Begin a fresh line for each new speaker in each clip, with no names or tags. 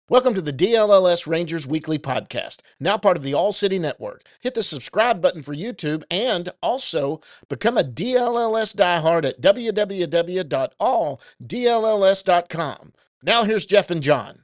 Welcome to the DLLS Rangers Weekly Podcast, now part of the All City Network. Hit the subscribe button for YouTube and also become a DLLS diehard at www.alldlls.com. Now here's Jeff and John.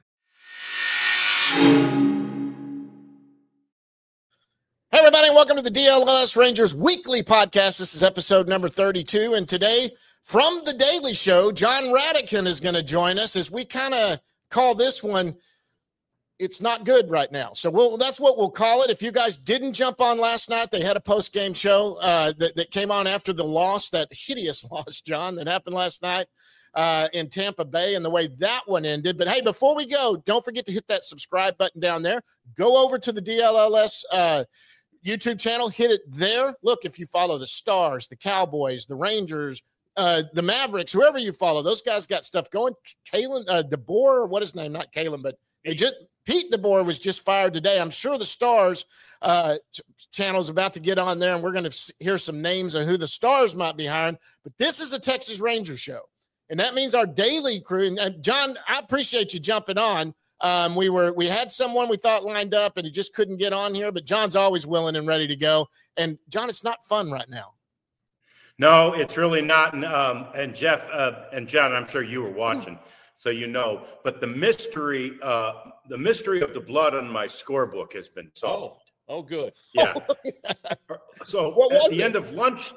Hey everybody, welcome to the DLLS Rangers Weekly Podcast. This is episode number 32, and today from The Daily Show, John Radican is going to join us as we kind of call this one It's Not Good Right Now. So that's what we'll call it. If you guys didn't jump on last night, they had a post-game show that came on after the loss, that hideous loss, John, that happened last night in Tampa Bay and the way that one ended. But hey, before we go, don't forget to hit that subscribe button down there. Go over to the DLLS YouTube channel, hit it there. Look, if you follow the Stars, the Cowboys, the Rangers, the Mavericks, whoever you follow, those guys got stuff going. Kalen DeBoer, what is his name? Not Kalen, but Pete DeBoer was just fired today. I'm sure the Stars channel is about to get on there, and we're going to hear some names of who the Stars might be hiring. But this is a Texas Rangers show, and that means our daily crew. And John, I appreciate you jumping on. We had someone we thought lined up, and he just couldn't get on here. But John's always willing and ready to go. And John, it's not fun right now.
No, it's really not. And Jeff and John, I'm sure you were watching, so you know. But the mystery of the blood on my scorebook has been solved.
Oh, good.
Yeah. So at the end of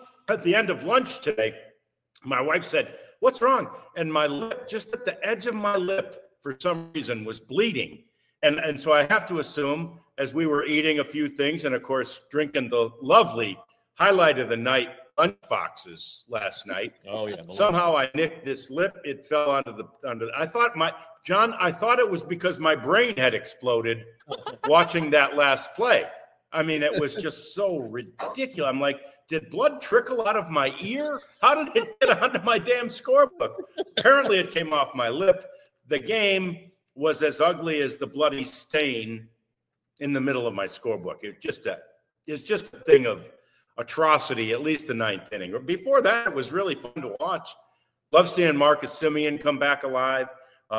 lunch today, my wife said, "What's wrong?" And my lip, just at the edge of my lip, for some reason, was bleeding. And so I have to assume, as we were eating a few things, and of course drinking the lovely highlight of the night lunch boxes last night.
Oh yeah.
Somehow I nicked this lip. It fell under. I thought it was because my brain had exploded watching that last play. I mean, it was just so ridiculous. I'm like, did blood trickle out of my ear? How did it get onto my damn scorebook? Apparently it came off my lip. The game was as ugly as the bloody stain in the middle of my scorebook. It's just a thing of atrocity, at least the ninth inning. Before that, it was really fun to watch. Love seeing Marcus Semien come back alive.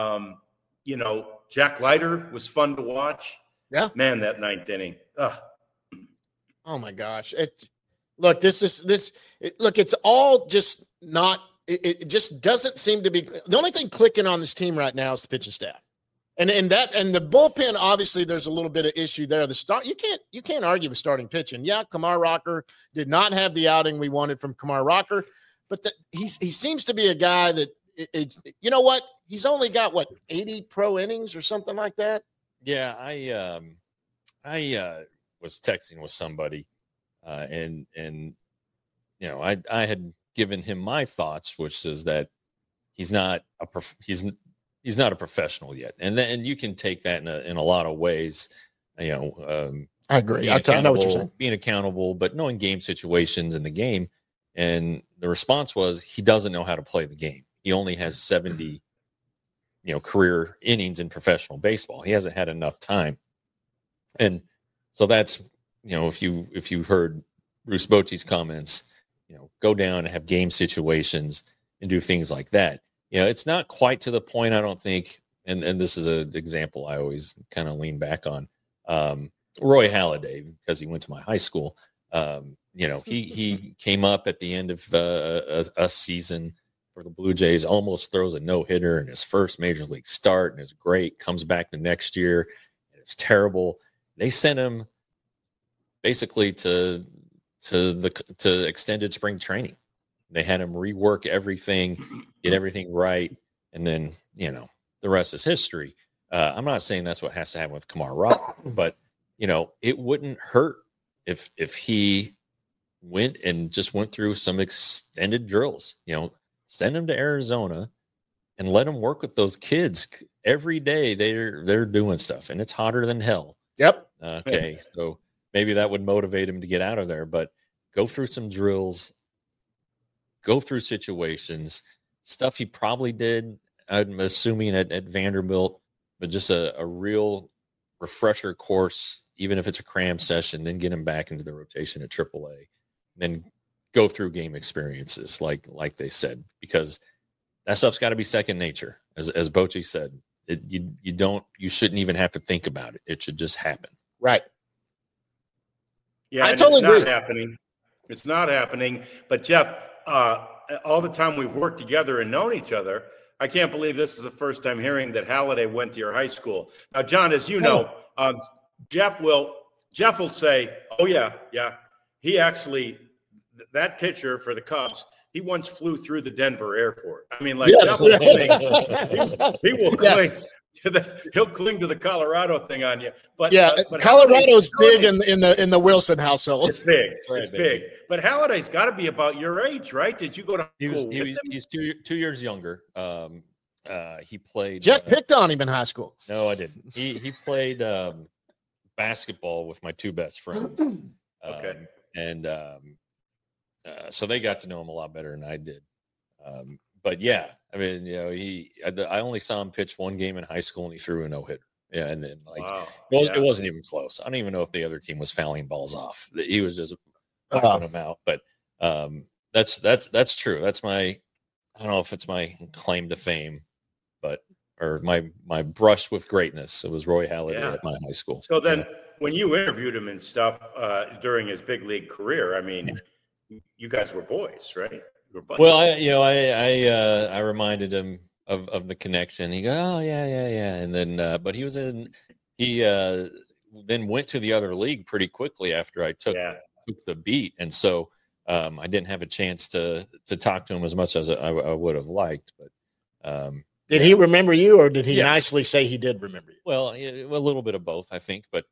Jack Leiter was fun to watch.
Yeah.
Man, that ninth inning. Ugh.
Oh my gosh. It's all just not, it just doesn't seem to be. The only thing clicking on this team right now is the pitching staff. And the bullpen, obviously, there's a little bit of issue there. You can't argue with starting pitching. Yeah, Kumar Rocker did not have the outing we wanted from Kumar Rocker, but he seems to be a guy that you know what? He's only got 80 pro innings or something like that.
Yeah, I was texting with somebody, and I had given him my thoughts, which is that he's not a professional yet, and you can take that in a lot of ways. I
agree. I know what you're saying.
Being accountable, but knowing game situations in the game. And the response was he doesn't know how to play the game. He only has 70, career innings in professional baseball. He hasn't had enough time, and so that's if you heard Bruce Bochy's comments, go down and have game situations and do things like that. It's not quite to the point, I don't think, and this is an example I always kind of lean back on. Roy Halladay, because he went to my high school, he came up at the end of a season for the Blue Jays, almost throws a no-hitter in his first major league start, and it's great, comes back the next year, and it's terrible. They sent him basically to extended spring training. They had him rework everything, get everything right, and then, the rest is history. I'm not saying that's what has to happen with Kumar Rocker, but, it wouldn't hurt if he went through some extended drills, send him to Arizona and let him work with those kids. Every day they're doing stuff, and it's hotter than hell.
Yep.
Okay, so maybe that would motivate him to get out of there, but go through some drills, go through situations, stuff he probably did, I'm assuming, at Vanderbilt, but just a real refresher course, even if it's a cram session, then get him back into the rotation at AAA, then go through game experiences like they said, because that stuff's got to be second nature. As Bochy said, You shouldn't even have to think about it. It should just happen.
Right.
Yeah,
I totally agree.
It's not happening. It's not happening. But Jeff, all the time we've worked together and known each other, I can't believe this is the first time hearing that Halliday went to your high school. Now, John, as you know, Jeff will say, "Oh yeah, he actually that pitcher for the Cubs." He once flew through the Denver airport. I mean, like,
yes.
he will cling he'll cling to the Colorado thing on you. But but
Colorado's big in the Wilson household.
It's big. It's big. But Halliday's got to be about your age, right? Did you go to?
He's 2 years younger. He played.
Jeff picked on him in high school.
No, I didn't. He played basketball with my two best friends.
Okay.
So they got to know him a lot better than I did. But yeah, I mean, I only saw him pitch one game in high school and he threw a no-hitter. Yeah. And then it wasn't even close. I don't even know if the other team was fouling balls off. He was just knocking them out. But that's true. That's I don't know if it's my claim to fame, or my brush with greatness. It was Roy Halladay at my high school.
So then when you interviewed him and stuff during his big league career, I mean, you guys were boys, right?
Well, I reminded him of the connection. He goes, "Oh yeah," and then but he then went to the other league pretty quickly after I took the beat, and so I didn't have a chance to talk to him as much as I would have liked. But
did he remember you, or did he nicely say he did remember you?
Well, a little bit of both, I think. But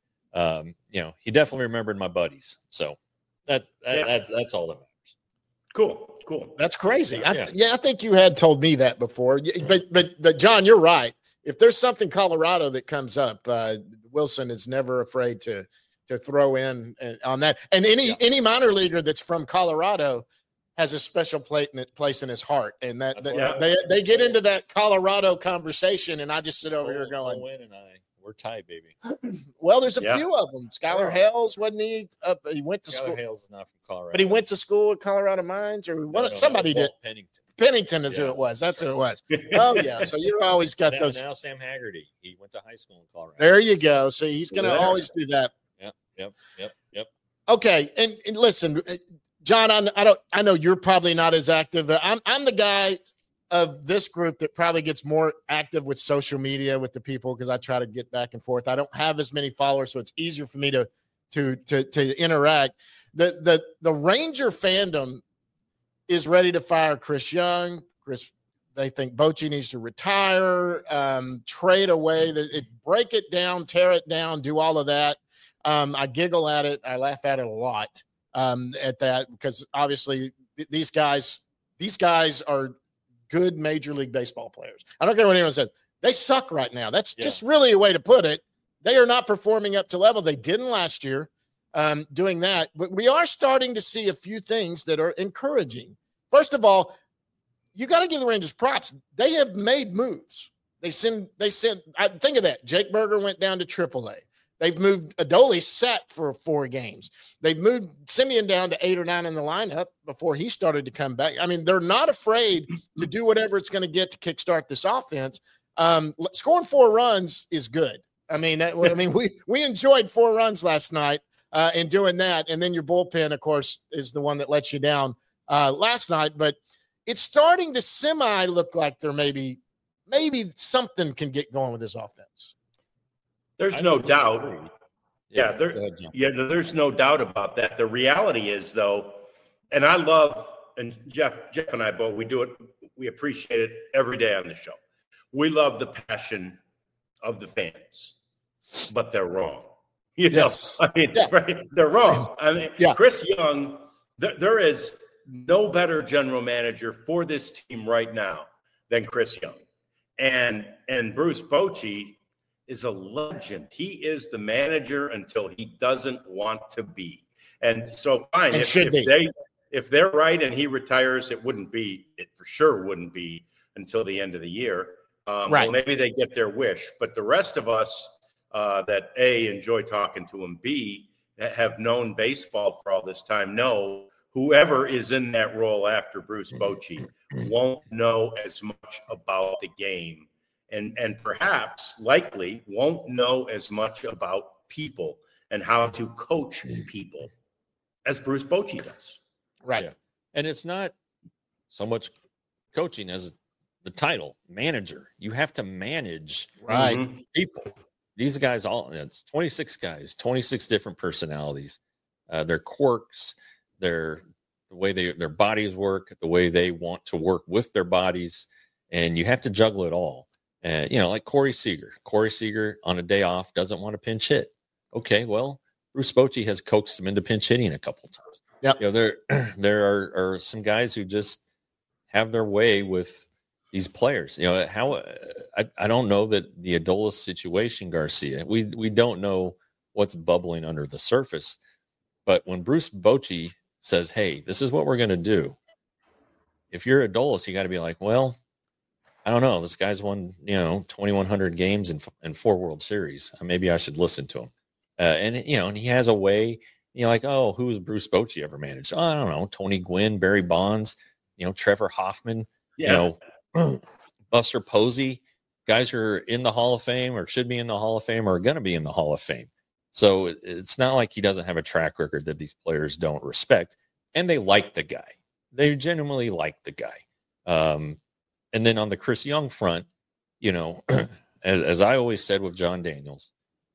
he definitely remembered my buddies. So that's all that matters.
Cool.
That's crazy. I think you had told me that before. But John, you're right. If there's something Colorado that comes up, Wilson is never afraid to throw in on that. And any minor leaguer that's from Colorado has a special place in his heart. And they get into that Colorado conversation, and I just sit over here going,
we're tied, baby.
Well, there's a few of them. Skylar Hales, wasn't he? He went to school.
Skylar Hales is not from Colorado.
But he went to school at Colorado Mines, or somebody did. Pennington is who it was. That's who it was. Oh, yeah. So you always got those.
Now Sam Haggerty. He went to high school in Colorado.
There you go. So he's going to always do that.
Yep.
Okay. And listen, John, I know you're probably not as active. I'm the guy of this group that probably gets more active with social media with the people, because I try to get back and forth. I don't have as many followers, so it's easier for me to interact. The Ranger fandom is ready to fire Chris Young. They think Bochy needs to retire, trade away, break it down, tear it down, do all of that. I giggle at it. I laugh at it a lot at that, because obviously these guys are good Major League Baseball players. I don't care what anyone says. They suck right now. That's just really a way to put it. They are not performing up to level. They didn't last year doing that. But we are starting to see a few things that are encouraging. First of all, you got to give the Rangers props. They have made moves. They send. Think of that. Jake Berger went down to AAA. They've moved Adoli sat for 4 games. They've moved Simeon down to 8 or 9 in the lineup before he started to come back. I mean, they're not afraid to do whatever it's going to get to kickstart this offense. Scoring 4 runs is good. I mean, we enjoyed 4 runs last night in doing that. And then your bullpen, of course, is the one that lets you down last night. But it's starting to semi look like there maybe something can get going with this offense.
There's no doubt. There's no doubt about that. The reality is, though, and I love, and Jeff and I both, we do it, we appreciate it every day on the show. We love the passion of the fans, but they're wrong. They're wrong. I mean, Chris Young, there is no better general manager for this team right now than Chris Young. And Bruce Bochy is a legend. He is the manager until he doesn't want to be. And so fine, if they're right and he retires, it for sure wouldn't be until the end of the year. Well, maybe they get their wish, but the rest of us that A, enjoy talking to him, B, have known baseball for all this time, know whoever is in that role after Bruce Bochy won't know as much about the game and perhaps likely won't know as much about people and how to coach people as Bruce Bochy does.
Right.
Yeah. And it's not so much coaching as the title, manager. You have to manage people. These guys it's 26 guys, 26 different personalities, their quirks, the way their bodies work, the way they want to work with their bodies, and you have to juggle it all. And like Corey Seager. Corey Seager on a day off doesn't want to pinch hit. Okay, well, Bruce Bochy has coaxed him into pinch hitting a couple of times.
Yep.
There are some guys who just have their way with these players. How I don't know that the Adolis situation, Garcia. We don't know what's bubbling under the surface, but when Bruce Bochy says, "Hey, this is what we're going to do," if you're Adolis, you got to be like, "Well, I don't know. This guy's won 2,100 games and 4 World Series. Maybe I should listen to him." And he has a way. Like, oh, who has Bruce Bochy ever managed? Oh, I don't know. Tony Gwynn, Barry Bonds, Trevor Hoffman, Buster Posey, guys who are in the Hall of Fame or should be in the Hall of Fame or are going to be in the Hall of Fame. So it's not like he doesn't have a track record that these players don't respect. And they like the guy. They genuinely like the guy. And then on the Chris Young front, as I always said with John Daniels,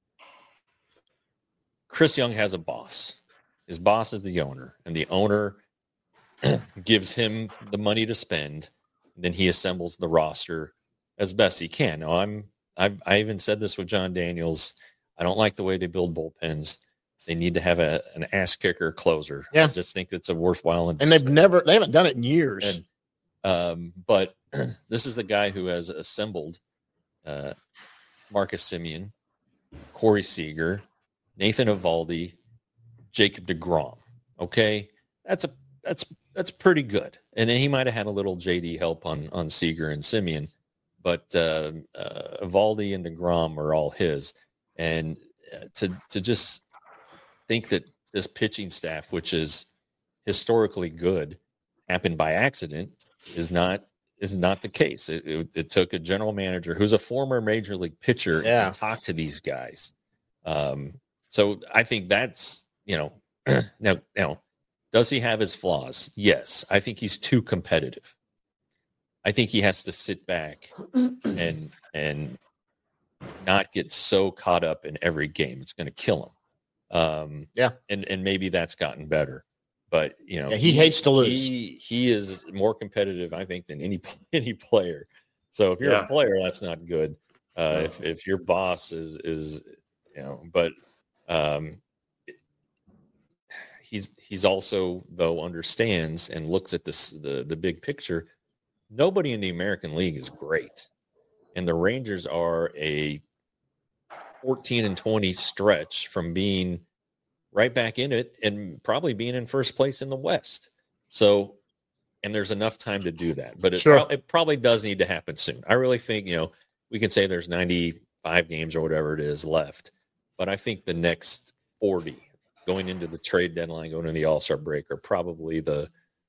Chris Young has a boss. His boss is the owner, and the owner gives him the money to spend. Then he assembles the roster as best he can. Now, I even said this with John Daniels. I don't like the way they build bullpens. They need to have an ass kicker closer.
Yeah.
I just think it's a worthwhile
investment. And they haven't done it in years.
And, but this is the guy who has assembled Marcus Semien, Corey Seager, Nathan Eovaldi, Jacob deGrom. Okay, that's pretty good. And then he might have had a little JD help on Seager and Semien, but Eovaldi and deGrom are all his. And to just think that this pitching staff, which is historically good, happened by accident is not the case. It took a general manager who's a former major league pitcher to talk to these guys. So I think that's, now, does he have his flaws? Yes. I think he's too competitive. I think he has to sit back and not get so caught up in every game. It's going to kill him. And maybe that's gotten better. But
he hates to lose.
He is more competitive, I think, than any player. So if you're a player, that's not good. If your boss is but he's also, though, understands and looks at the big picture. Nobody in the American League is great, and the Rangers are a 14-20 stretch from being right back in it and probably being in first place in the West. So, and there's enough time to do that, but it probably does need to happen soon. I really think, we can say there's 95 games or whatever it is left, but I think the next 40 going into the trade deadline, going into the All-Star break are probably the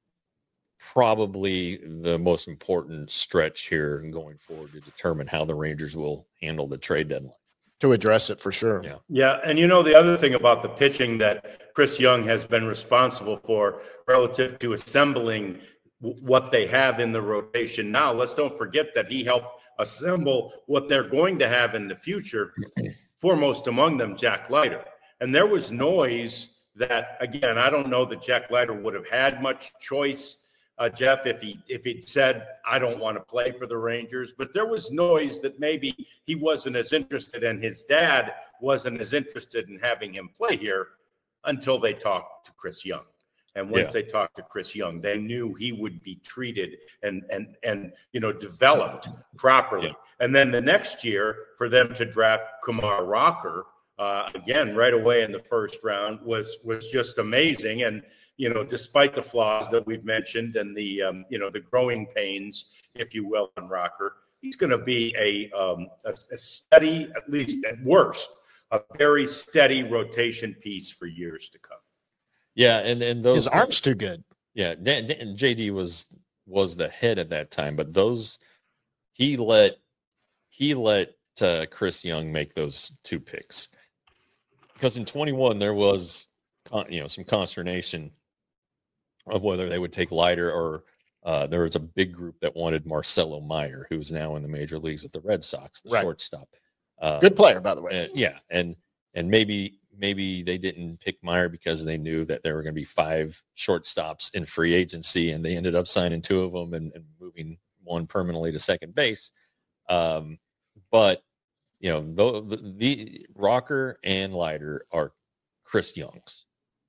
most important stretch here and going forward to determine how the Rangers will handle the trade deadline.
To address it for sure.
Yeah. And the other thing about the pitching that Chris Young has been responsible for relative to assembling what they have in the rotation now, let's don't forget that he helped assemble what they're going to have in the future, foremost among them, Jack Leiter. And there was noise that, again, I don't know that Jack Leiter would have had much choice, Jeff, if he'd said, I don't want to play for the Rangers. But there was noise that maybe he wasn't as interested and his dad wasn't as interested in having him play here until they talked to Chris Young. And once they talked to Chris Young, they knew he would be treated and developed properly. Yeah. And then the next year for them to draft Kumar Rocker, again, right away in the first round was just amazing. And, despite the flaws that we've mentioned and the growing pains, if you will, on Rocker, he's going to be a steady, at least at worst, a very steady rotation piece for years to come.
Yeah, and those
his arm's too good.
Yeah, JD was the head at that time, but he let he let Chris Young make those 2 picks, because in 21 there was some consternation of whether they would take Leiter, or there was a big group that wanted Marcelo Meyer, who's now in the major leagues with the Red Sox, the shortstop.
Good player, by the way.
And maybe they didn't pick Meyer because they knew that there were going to be 5 shortstops in free agency, and they ended up signing 2 of them and moving one permanently to second base. But the Rocker and Leiter are Chris Young's.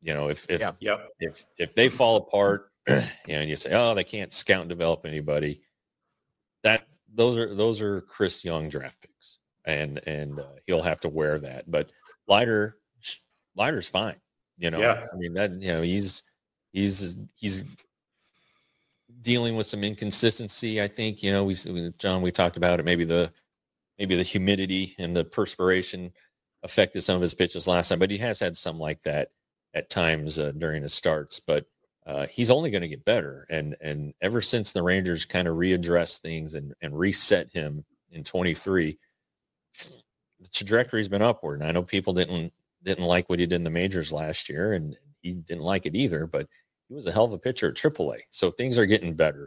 If they fall apart, and you say, oh, they can't scout and develop anybody, those are Chris Young draft picks, and he'll have to wear that. But Leiter's fine. I mean, he's dealing with some inconsistency. I think, we talked about it. Maybe the humidity and the perspiration affected some of his pitches last time, but he has had some like that at times during his starts. But he's only going to get better. And ever since the Rangers kind of readdressed things and reset him in 23, the trajectory's been upward. And I know people didn't like what he did in the majors last year, and he didn't like it either, but he was a hell of a pitcher at AAA. So things are getting better.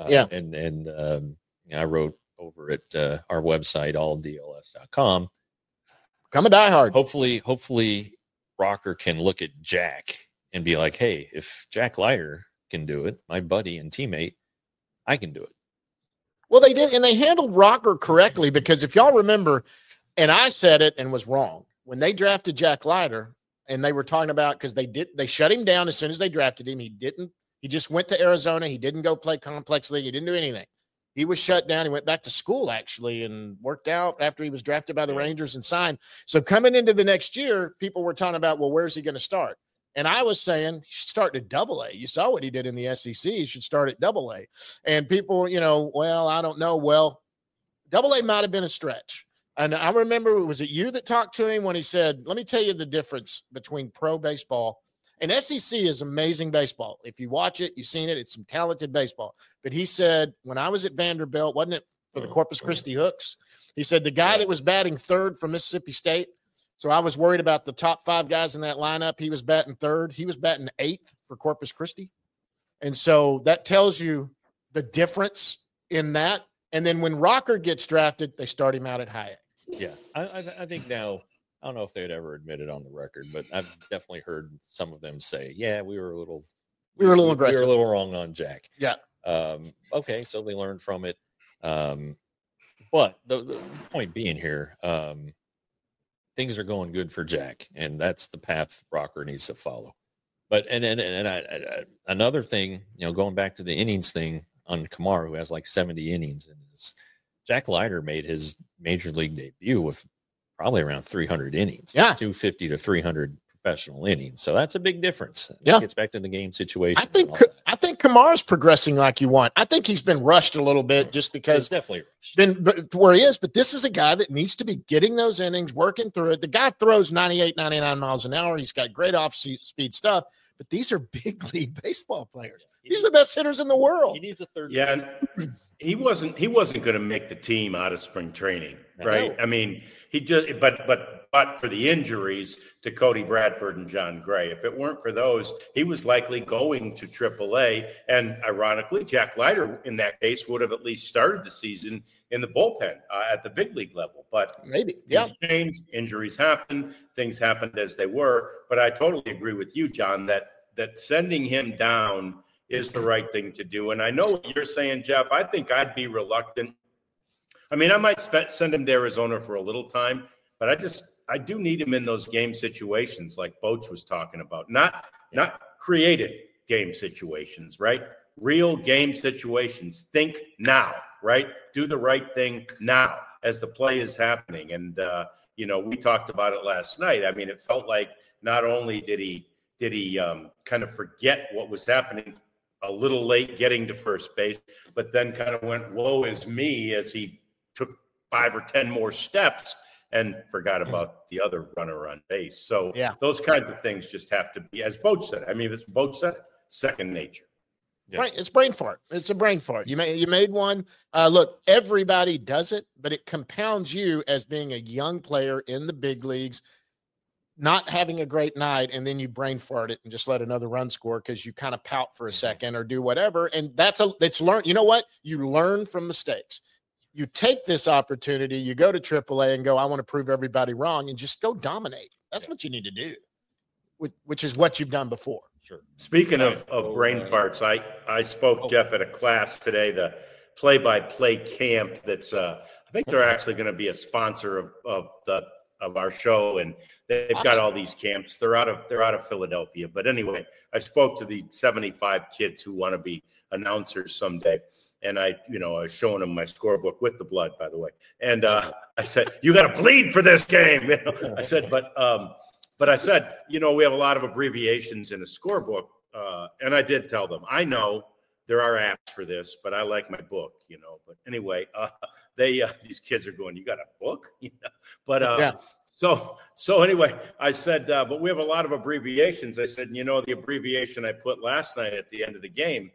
I wrote over at our website, alldls.com.
Come a diehard.
Hopefully Rocker can look at Jack and be like, hey, if Jack Leiter can do it, my buddy and teammate, I can do it.
Well, they did, and they handled Rocker correctly, because if y'all remember, and I said it and was wrong, when they drafted Jack Leiter, and they were talking about, because they shut him down as soon as they drafted him. He just went to Arizona. He didn't go play complex league. He didn't do anything. He was shut down. He went back to school, actually, and worked out after he was drafted by the Rangers and signed. So coming into the next year, people were talking about, well, where's he going to start? And I was saying he should start at AA. You saw what he did in the SEC. He should start at AA. And people, well, I don't know. Well, AA might have been a stretch. And I remember, was it you that talked to him when he said, let me tell you the difference between pro baseball and SEC is amazing baseball. If you watch it, you've seen it. It's some talented baseball. But he said, when I was at Vanderbilt, wasn't it for the Corpus Christi Hooks? He said the guy that was batting third from Mississippi State. So I was worried about the top 5 guys in that lineup. He was batting third. He was batting 8th for Corpus Christi. And so that tells you the difference in that. And then when Rocker gets drafted, they start him out at high A.
Yeah, I think now, I don't know if they'd ever admit it on the record, but I've definitely heard some of them say, yeah, we were a little aggressive. We were a little wrong on Jack.
Yeah.
Okay, so they learned from it. But the point being here, things are going good for Jack, and that's the path Rocker needs to follow. But another thing, going back to the innings thing on Kamaru, who has like 70 innings in his, Jack Leiter made his major league debut with probably around 300 innings.
Yeah.
250 to 300 professional innings. So that's a big difference.
Yeah.
Gets back to the game situation.
I think Kamara's progressing like you want. I think he's been rushed a little bit just because
He's definitely rushed.
But where he is. But this is a guy that needs to be getting those innings, working through it. The guy throws 98, 99 miles an hour. He's got great off-speed stuff. But these are big league baseball players. These are the best hitters in the world.
He needs a third.
Yeah, and he wasn't going to make the team out of spring training, right? I mean, he just but for the injuries to Cody Bradford and John Gray, if it weren't for those, he was likely going to AAA. And ironically, Jack Leiter in that case would have at least started the season in the bullpen at the big league level. But
maybe,
things changed, injuries happened, things happened as they were. But I totally agree with you, John, that sending him down is the right thing to do. And I know what you're saying, Jeff. I think I'd be reluctant. I mean, I might send him to Arizona for a little time, but I do need him in those game situations like Boach was talking about, not created game situations, right? Real game situations. Think now, right? Do the right thing now as the play is happening. And, we talked about it last night. I mean, it felt like not only did he kind of forget what was happening a little late getting to first base, but then kind of went, woe is me, as he took 5 or 10 more steps and forgot about the other runner on base. So those kinds of things just have to be, as Boach said, I mean, it's Boach said, second nature.
Yeah.
It's brain fart. It's a brain fart. You made one. Look, everybody does it, but it compounds you as being a young player in the big leagues, not having a great night, and then you brain fart it and just let another run score because you kind of pout for a second or do whatever. And it's learned. You know what? You learn from mistakes. You take this opportunity, you go to AAA and go, I want to prove everybody wrong, and just go dominate. That's what you need to do, which is what you've done before.
Sure.
Speaking of brain farts, I spoke, Jeff, at a class today, the play-by-play camp that's I think they're actually going to be a sponsor of our show, and they've got all these camps. They're out of Philadelphia. But anyway, I spoke to the 75 kids who want to be announcers someday. And I was showing them my scorebook with the blood, by the way. And I said, you got to bleed for this game. I said, but I said, we have a lot of abbreviations in a scorebook. And I did tell them, I know there are apps for this, but I like my book, But anyway, these kids are going, you got a book? But
yeah.
So anyway, I said, but we have a lot of abbreviations. I said, the abbreviation I put last night at the end of the game,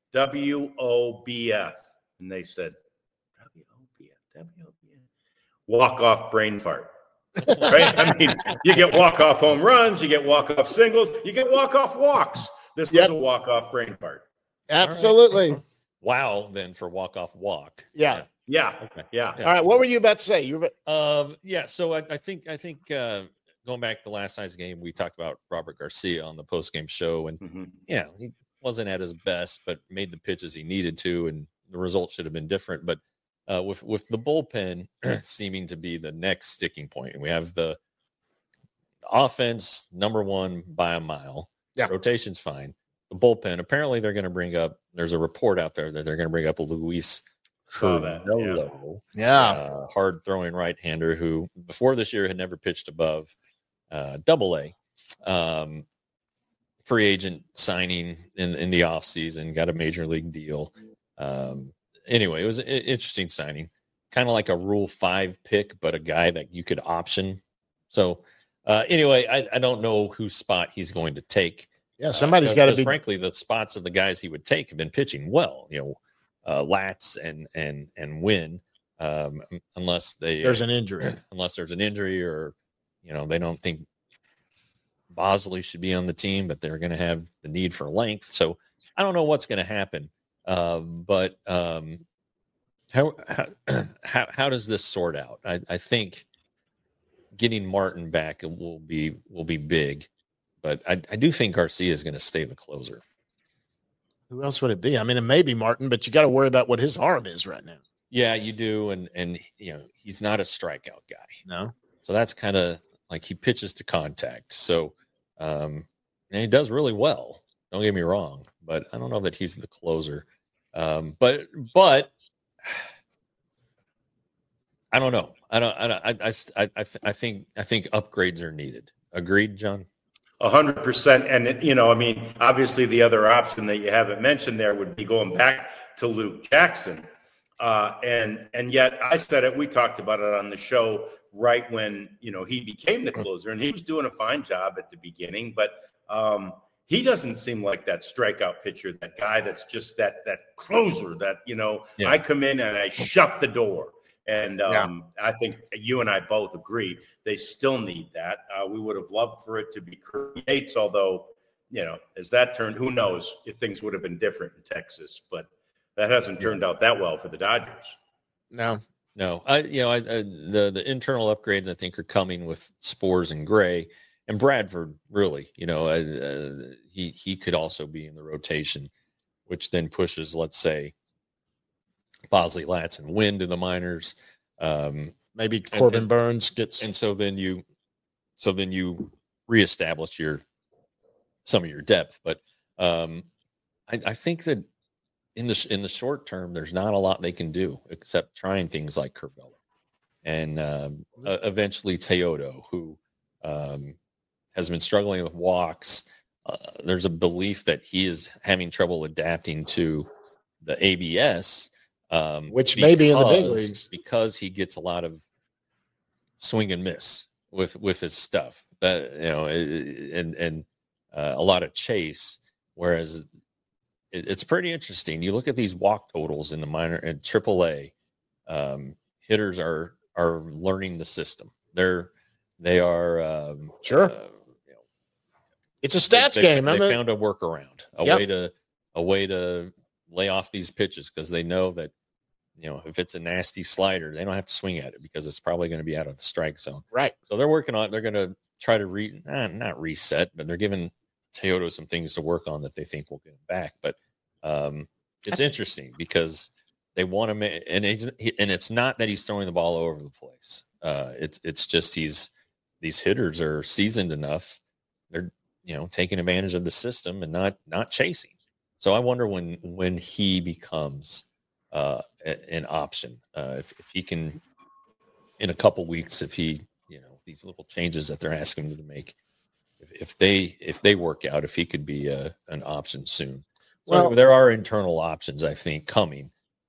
WOBF. And they said, WOBF. Walk-off brain fart. Right? I mean, you get walk-off home runs, you get walk-off singles, you get walk-off walks. This was a walk-off brain fart.
Absolutely.
Right. Wow, then for walk-off walk.
Yeah.
Yeah.
Okay.
Yeah.
All right. What were you about to say?
So I think going back to last night's game, we talked about Robert Garcia on the post-game show, and he wasn't at his best, but made the pitches he needed to, and the result should have been different. But with the bullpen seeming to be the next sticking point, and we have the offense number one by a mile.
Yeah,
rotation's fine. The bullpen, apparently, they're going to bring up. There's a report out there that they're going to bring up a Luis Curvelo, hard throwing right-hander who before this year had never pitched above Double-A. Free agent signing in the offseason, got a major league deal. Anyway, it was an interesting signing, kind of like a Rule 5 pick, but a guy that you could option. So anyway, I don't know whose spot he's going to take.
Yeah, somebody's got to be.
Frankly, the spots of the guys he would take have been pitching well. Latz and Wynn, unless
there's an injury,
or they don't think Bosley should be on the team, but they're going to have the need for length. So I don't know what's going to happen. But how does this sort out? I think getting Martin back will be big, but I do think Garcia is going to stay the closer.
Who else would it be? I mean, it may be Martin, but you got to worry about what his arm is right now.
Yeah, you do, and he's not a strikeout guy.
No, so
that's kind of like he pitches to contact. So. And he does really well. Don't get me wrong, but I don't know that he's the closer. But I don't know. I think upgrades are needed. Agreed, John?
100%. And obviously the other option that you haven't mentioned there would be going back to Luke Jackson. And yet I said it. We talked about it on the show. Right when, he became the closer, and he was doing a fine job at the beginning, but he doesn't seem like that strikeout pitcher, that guy that's just that closer that, I come in and I shut the door. And I think you and I both agree they still need that. We would have loved for it to be Yates, although, as that turned, who knows if things would have been different in Texas, but that hasn't turned out that well for the Dodgers.
No, the internal upgrades I think are coming with Spores and Gray, and Bradford. Really, he could also be in the rotation, which then pushes, let's say, Bosley, Latz, and Wynn to the minors.
Maybe Corbin Burns gets,
and so then you reestablish some of your depth. But I think that. In the short term, there's not a lot they can do except trying things like Curvelo and eventually Teodo, who has been struggling with walks. There's a belief that he is having trouble adapting to the ABS,
which may be in the big leagues
because he gets a lot of swing and miss with his stuff. And a lot of chase, whereas it's pretty interesting. You look at these walk totals in the minor and AAA. Hitters are learning the system. They are
sure. It's a stats game.
They found a workaround, a way to lay off these pitches because they know that, if it's a nasty slider, they don't have to swing at it because it's probably going to be out of the strike zone.
Right.
So they're working on it. They're going to try to not reset, but they're giving Teodo some things to work on that they think will get him back. But it's interesting because they want to make, and it's not that he's throwing the ball all over the place. It's just these hitters are seasoned enough. They're taking advantage of the system and not chasing. So I wonder when he becomes an option, if he can, in a couple weeks, if he, these little changes that they're asking him to make, if they work out, if he could be an option soon. So there are internal options, I think, coming.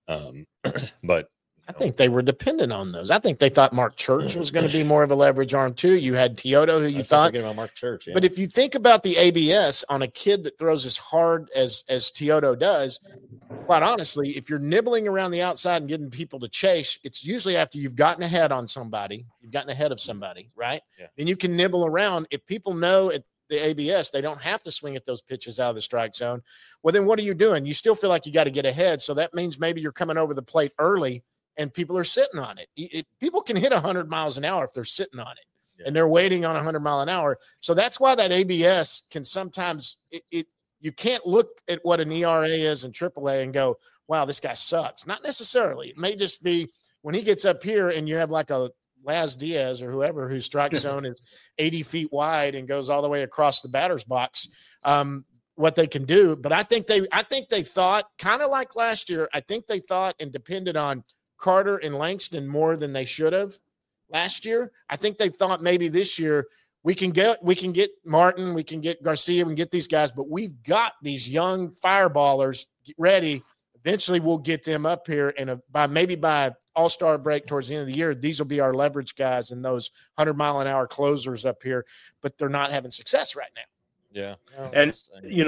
But
I think they were dependent on those. I think they thought Mark Church was going to be more of a leverage arm too. You had Teodo, who you thought.
Forgetting about Mark Church, yeah.
But if you think about the ABS on a kid that throws as hard as Teodo does, quite honestly, if you're nibbling around the outside and getting people to chase, it's usually after you've gotten ahead on somebody, you've gotten ahead of somebody, right?
Yeah.
Then you can nibble around. If people know at the ABS, they don't have to swing at those pitches out of the strike zone. Well, then what are you doing? You still feel like you got to get ahead. So that means maybe you're coming over the plate early and people are sitting on it. People can hit 100 miles an hour if they're sitting on it. Yeah. And they're waiting on 100 mile an hour. So that's why that ABS can sometimes you can't look at what an ERA is in AAA and go, wow, this guy sucks. Not necessarily. It may just be when he gets up here and you have like a Laz Diaz or whoever whose strike zone is 80 feet wide and goes all the way across the batter's box, what they can do. But I think they thought, kind of like last year, I think they thought and depended on Carter and Langston more than they should have last year. I think they thought maybe this year we can get Martin, we can get Garcia, we can get these guys, but we've got these young fireballers ready. Eventually we'll get them up here, and by All-Star break towards the end of the year, these will be our leverage guys and those 100-mile-an-hour closers up here, but they're not having success right now.
Yeah.
And,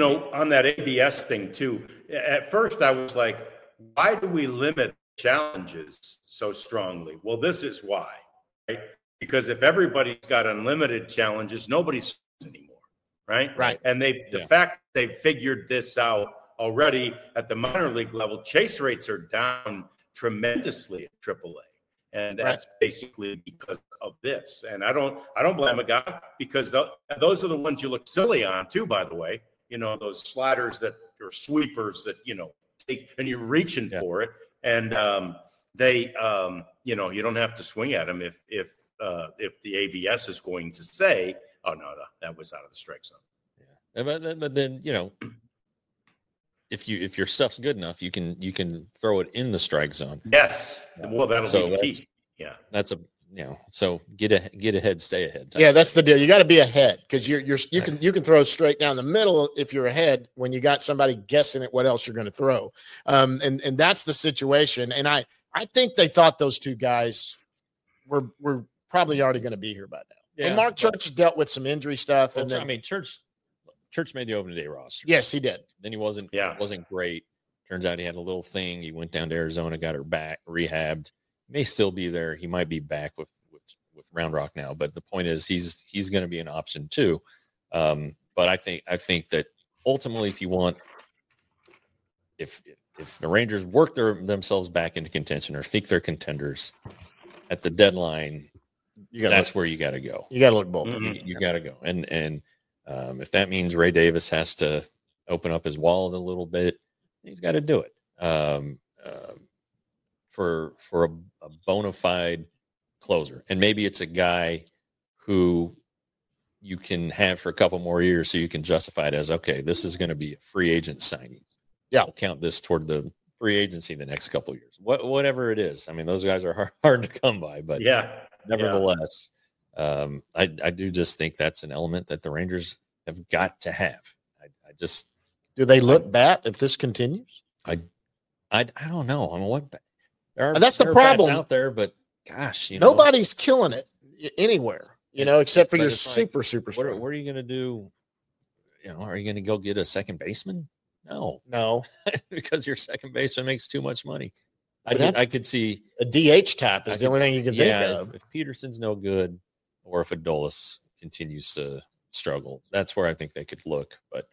on that ABS thing too, at first I was like, why do we limit challenges so strongly? Well, this is why, right? Because if everybody's got unlimited challenges, nobody's anymore, right?
Right.
And the fact they figured this out already at the minor league level, chase rates are down tremendously at AAA, and that's basically because of this. And I don't blame a guy, because those are the ones you look silly on too. By the way, those sliders that or sweepers that take, and you're reaching for it. And you don't have to swing at them if the ABS is going to say, "Oh no, that was out of the strike zone."
Yeah, but then if your stuff's good enough, you can throw it in the strike zone.
Yes, well, that'll be key. Yeah,
that's so get ahead, stay ahead.
Yeah, that's the deal. You got to be ahead because you can throw straight down the middle if you're ahead when you got somebody guessing at what else you're going to throw. And that's the situation. And I think they thought those two guys were probably already going to be here by now. Yeah, and Mark Church dealt with some injury stuff.
Well, Church made the opening day roster.
Yes, he did.
Then he wasn't great. Turns out he had a little thing. He went down to Arizona, got her back, rehabbed. May still be there. He might be back with Round Rock now, but the point is he's going to be an option too. But I think that ultimately, if the Rangers work themselves back into contention or think they're contenders at the deadline, that's where you got to go.
You got to look both.
You got to go, and if that means Ray Davis has to open up his wallet a little bit, he's got to do it. For a bona fide closer. And maybe it's a guy who you can have for a couple more years so you can justify it as, okay, this is going to be a free agent signing.
Yeah.
I'll count this toward the free agency the next couple of years. Whatever it is. I mean, those guys are hard to come by, but nevertheless, I do just think that's an element that the Rangers have got to have. I just...
Do they look bad if this continues?
I don't know. I mean,
that's the problem
out there, but gosh,
nobody's killing it anywhere, except for your super.
What are you going to do? Are you going to go get a second baseman No, because your second baseman makes too much money.
But
I could see
a DH tap is the only thing you can think of.
If Peterson's no good, or if Adolis continues to struggle, that's where I think they could look. But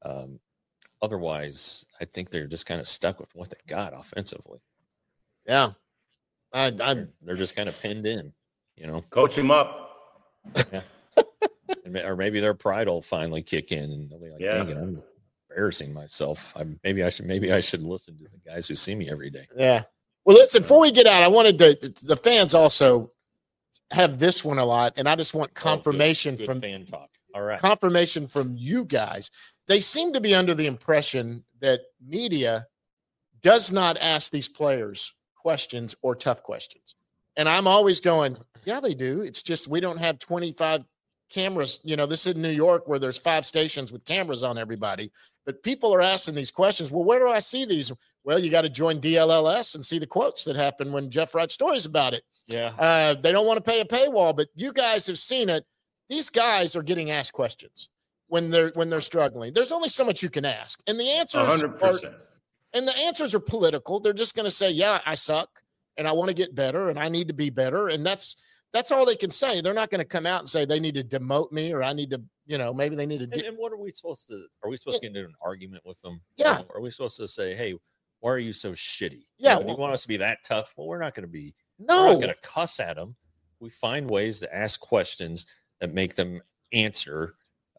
otherwise, I think they're just kind of stuck with what they got offensively.
Yeah,
they're just kind of pinned in,
Coach him up.
Yeah. Or maybe their pride will finally kick in, and they'll be like, "Dang it, I'm embarrassing myself. Maybe I should listen to the guys who see me every day."
Yeah. Well, listen, before we get out, I wanted the fans also have this one a lot, and I just want confirmation
good
from
fan talk. All right.
Confirmation from you guys. They seem to be under the impression that media does not ask these players questions or tough questions. And I'm always going, yeah, they do. It's just we don't have 25 cameras. This is New York where there's 5 stations with cameras on everybody. But people are asking these questions. Well, where do I see these? Well, you got to join DLLS and see the quotes that happen when Jeff writes stories about it.
Yeah.
They don't want to pay a paywall, but you guys have seen it. These guys are getting asked questions when they're struggling. There's only so much you can ask. And the answers
100%.
And the answers are political. They're just going to say, yeah, I suck and I want to get better and I need to be better. And that's all they can say. They're not going to come out and say they need to demote me or I need to, maybe they need to.
And what are we supposed to? Are we supposed to get into an argument with them?
Yeah.
Or are we supposed to say, hey, why are you so shitty?
Yeah.
You want us to be that tough? Well, we're not going to be.
No.
We're not going to cuss at them. We find ways to ask questions that make them answer,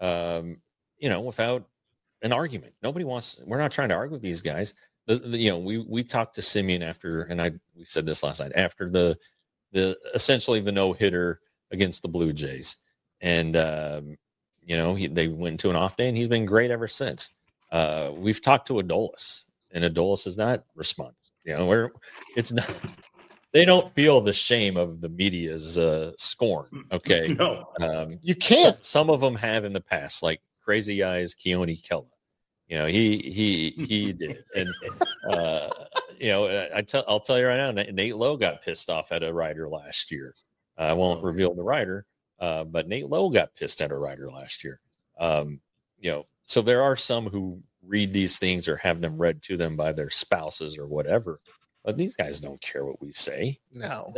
without an argument. We're not trying to argue with these guys. We talked to Simeon after, and we said this last night, after the essentially the no-hitter against the Blue Jays. And, they went into an off day and he's been great ever since. We've talked to Adolis and Adolis has not responded. It's not, they don't feel the shame of the media's scorn. Okay.
No,
you can't.
Some of them have in the past, like Crazy Eyes, Keone Kella. He did. And, I'll tell you right now, Nate Lowe got pissed off at a writer last year. I won't reveal the writer, but Nate Lowe got pissed at a writer last year. So there are some who read these things or have them read to them by their spouses or whatever. But these guys don't care what we say.
No,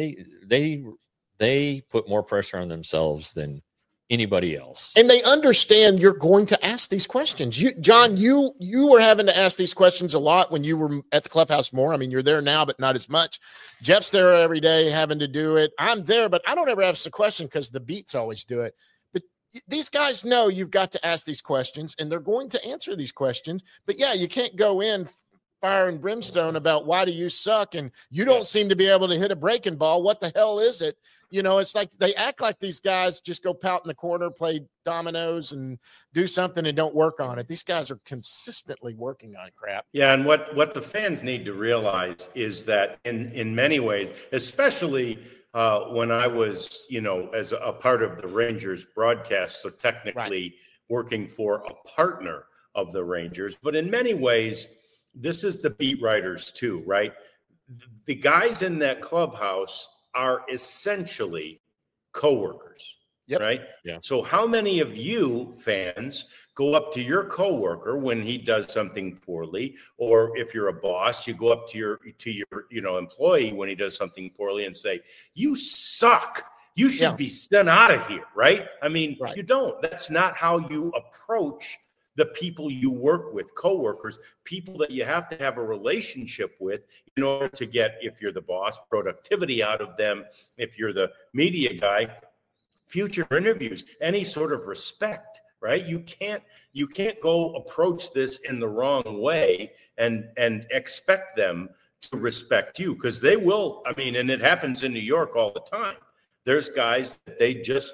they put more pressure on themselves than anybody else.
And they understand you're going to ask these questions. John, you were having to ask these questions a lot when you were at the clubhouse more. I mean, you're there now, but not as much. Jeff's there every day having to do it. I'm there, but I don't ever ask the question because the beats always do it. But these guys know you've got to ask these questions, and they're going to answer these questions. But, yeah, you can't go in fire and brimstone about why do you suck and you don't seem to be able to hit a breaking ball. What the hell is it? It's like they act like these guys just go pout in the corner, play dominoes and do something and don't work on it. These guys are consistently working on crap.
Yeah, and what the fans need to realize is that in many ways, especially when I was, as a part of the Rangers broadcast, so technically working for a partner of the Rangers, but in many ways, this is the beat writers too, right? The guys in that clubhouse are essentially coworkers, right?
Yeah.
So how many of you fans go up to your coworker when he does something poorly, or if you're a boss, you go up to your employee when he does something poorly and say, "You suck. You should be sent out of here," right? I mean, you don't. That's not how you approach the people you work with, coworkers, people that you have to have a relationship with in order to get, if you're the boss, productivity out of them. If you're the media guy, future interviews, any sort of respect, right? You can't go approach this in the wrong way and expect them to respect you, because they will. I mean, and it happens in New York all the time. There's guys that they just,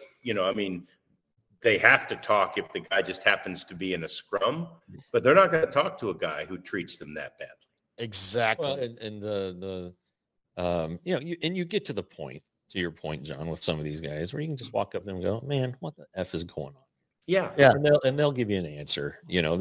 they have to talk if the guy just happens to be in a scrum, but they're not going to talk to a guy who treats them that badly.
Exactly.
Well, and you get to the point, to your point, John, with some of these guys where you can just walk up to them and go, "Man, what the F is going on?"
Yeah.
And they'll give you an answer.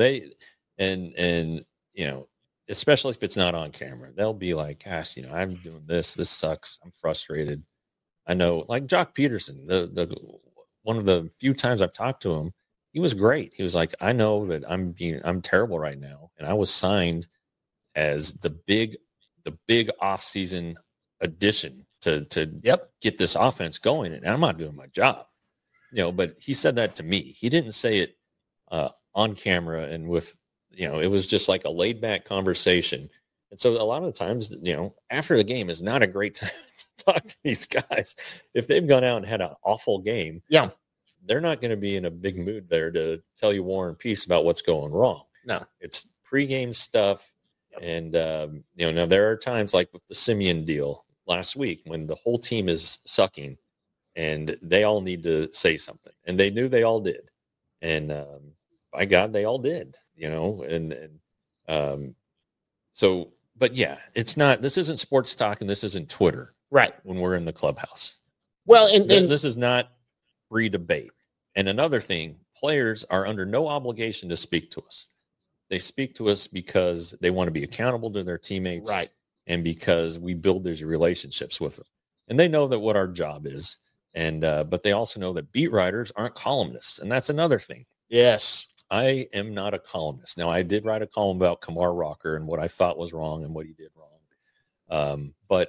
Especially if it's not on camera, they'll be like, "Gosh, I'm doing this. This sucks. I'm frustrated." I know, like Jock Peterson, the one of the few times I've talked to him, he was great. He was like, "I know that I'm terrible right now, and I was signed as the big off-season addition to get this offense going, and I'm not doing my job, but he said that to me. He didn't say it on camera and with, it was just like a laid back conversation. And so a lot of the times, after the game is not a great time to talk to these guys. If they've gone out and had an awful game, they're not going to be in a big mood there to tell you War and Peace about what's going wrong.
No,
it's pregame stuff. And, now there are times like with the Simeon deal last week when the whole team is sucking and they all need to say something, and they knew they all did. And, by God, they all did, so, but yeah, this isn't sports talk and this isn't Twitter,
right?
When we're in the clubhouse.
Well, and
this is not free debate. And another thing, players are under no obligation to speak to us. They speak to us because they want to be accountable to their teammates,
right?
And because we build these relationships with them, and they know that what our job is. And but they also know that beat writers aren't columnists, and that's another thing.
Yes,
I am not a columnist. Now, I did write a column about Kamar Rocker and what I thought was wrong and what he did wrong. But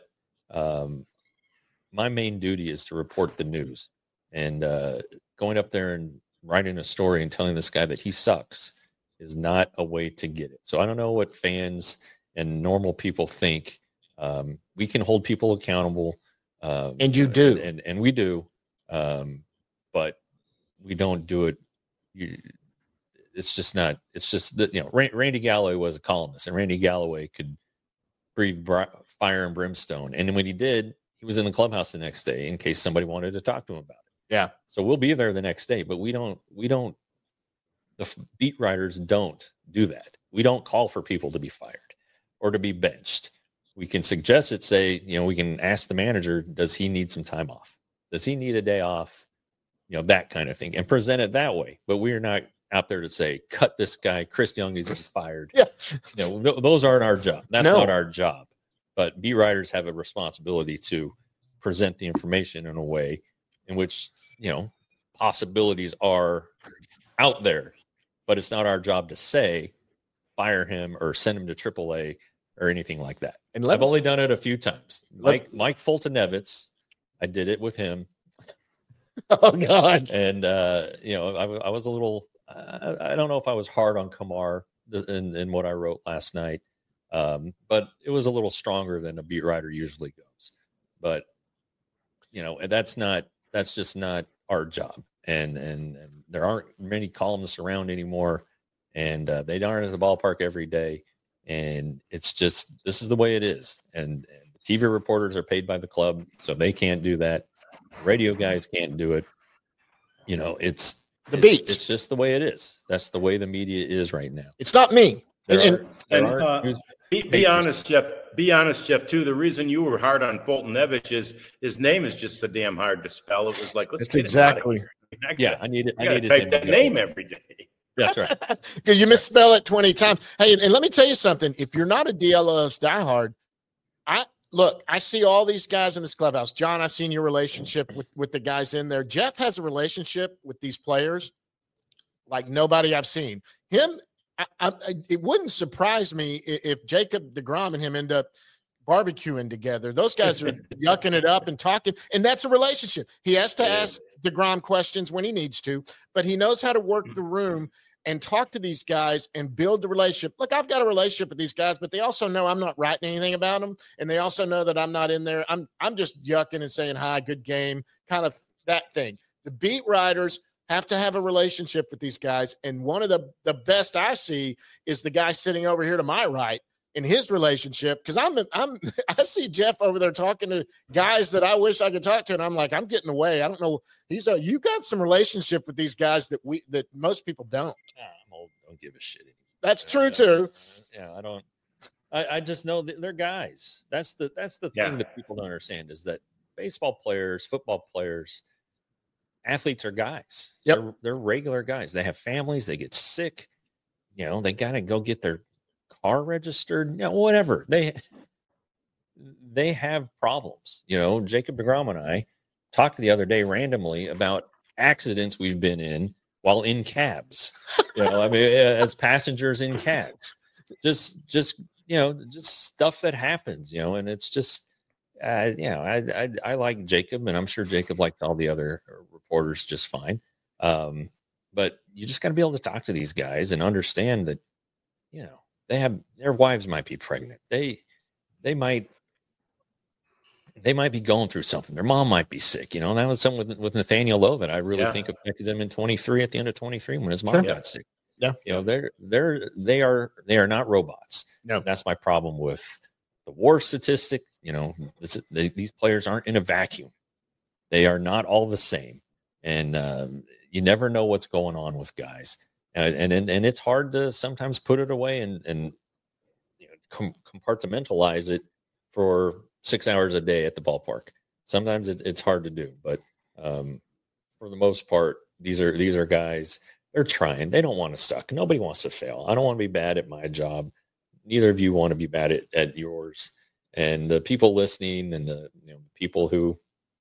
my main duty is to report the news, and going up there and writing a story and telling this guy that he sucks is not a way to get it. So I don't know what fans and normal people think. We can hold people accountable.
And you do.
And we do. But we don't do it. It's just that, Randy Galloway was a columnist, and Randy Galloway could breathe fire and brimstone. And when he did, he was in the clubhouse the next day in case somebody wanted to talk to him about it.
Yeah.
So we'll be there the next day, but the beat writers don't do that. We don't call for people to be fired or to be benched. We can suggest it, say, we can ask the manager, does he need some time off? Does he need a day off? That kind of thing, and present it that way. But we're not out there to say, cut this guy, Chris Young needs to be fired.
Yeah.
Those aren't our job. That's not our job. But beat writers have a responsibility to present the information in a way in which, possibilities are out there. But it's not our job to say, fire him or send him to AAA or anything like that. And I've only done it a few times. Mike Fulton-Evans, I did it with him.
Oh God!
And I was a little. I don't know if I was hard on Kamar in what I wrote last night, but it was a little stronger than a beat writer usually goes. But that's just not our job. And there aren't many columnists around anymore, and they aren't at the ballpark every day. And it's just, this is the way it is. And TV reporters are paid by the club, so they can't do that. Radio guys can't do it. It's the beats. It's just the way it is. That's the way the media is right now.
It's not me.
Be honest, Jeff. Be honest, Jeff. Too. The reason you were hard on Fulton-Evans is his name is just so damn hard to spell. It was like, let's get
exactly.
I need it.
I type that name every day.
That's right.
Because you misspell it 20 times. Hey, and let me tell you something. If you're not a DLS diehard, I see all these guys in this clubhouse. John, I've seen your relationship with the guys in there. Jeff has a relationship with these players like nobody I've seen. Him, it wouldn't surprise me if Jacob deGrom and him end up barbecuing together. Those guys are yucking it up and talking, and that's a relationship. He has to ask deGrom questions when he needs to, but he knows how to work the room and talk to these guys and build the relationship. Look, I've got a relationship with these guys, but they also know I'm not writing anything about them, and they also know that I'm not in there. I'm just yucking and saying hi, good game, kind of that thing. The beat writers have to have a relationship with these guys, and one of the best I see is the guy sitting over here to my right in his relationship, because I see Jeff over there talking to guys that I wish I could talk to, and I'm like, I'm getting away. I don't know. You got some relationship with these guys that most people don't.
I'm old. Don't give a shit anymore.
That's true too.
Yeah, I don't. I just know that they're guys. That's the thing that people don't understand is that baseball players, football players, athletes are guys.
Yep.
They're regular guys. They have families. They get sick. They got to go get their car registered, whatever. They have problems. Jacob deGrom and I talked the other day randomly about accidents we've been in while in cabs. As passengers in cabs. just stuff that happens, and it's just, I like Jacob, and I'm sure Jacob liked all the other reporters just fine. But you just got to be able to talk to these guys and understand that, their wives might be pregnant. They might be going through something. Their mom might be sick. That was something with Nathaniel Lowe that I really think affected him in 23 at the end of 23 when his mom got sick.
Yeah.
They are not robots.
No,
that's my problem with the WAR statistic. These players aren't in a vacuum. They are not all the same. And you never know what's going on with guys. And it's hard to sometimes put it away and compartmentalize it for 6 hours a day at the ballpark. Sometimes it's hard to do, but for the most part, these are guys. They're trying. They don't want to suck. Nobody wants to fail. I don't want to be bad at my job. Neither of you want to be bad at yours. And the people listening and the people who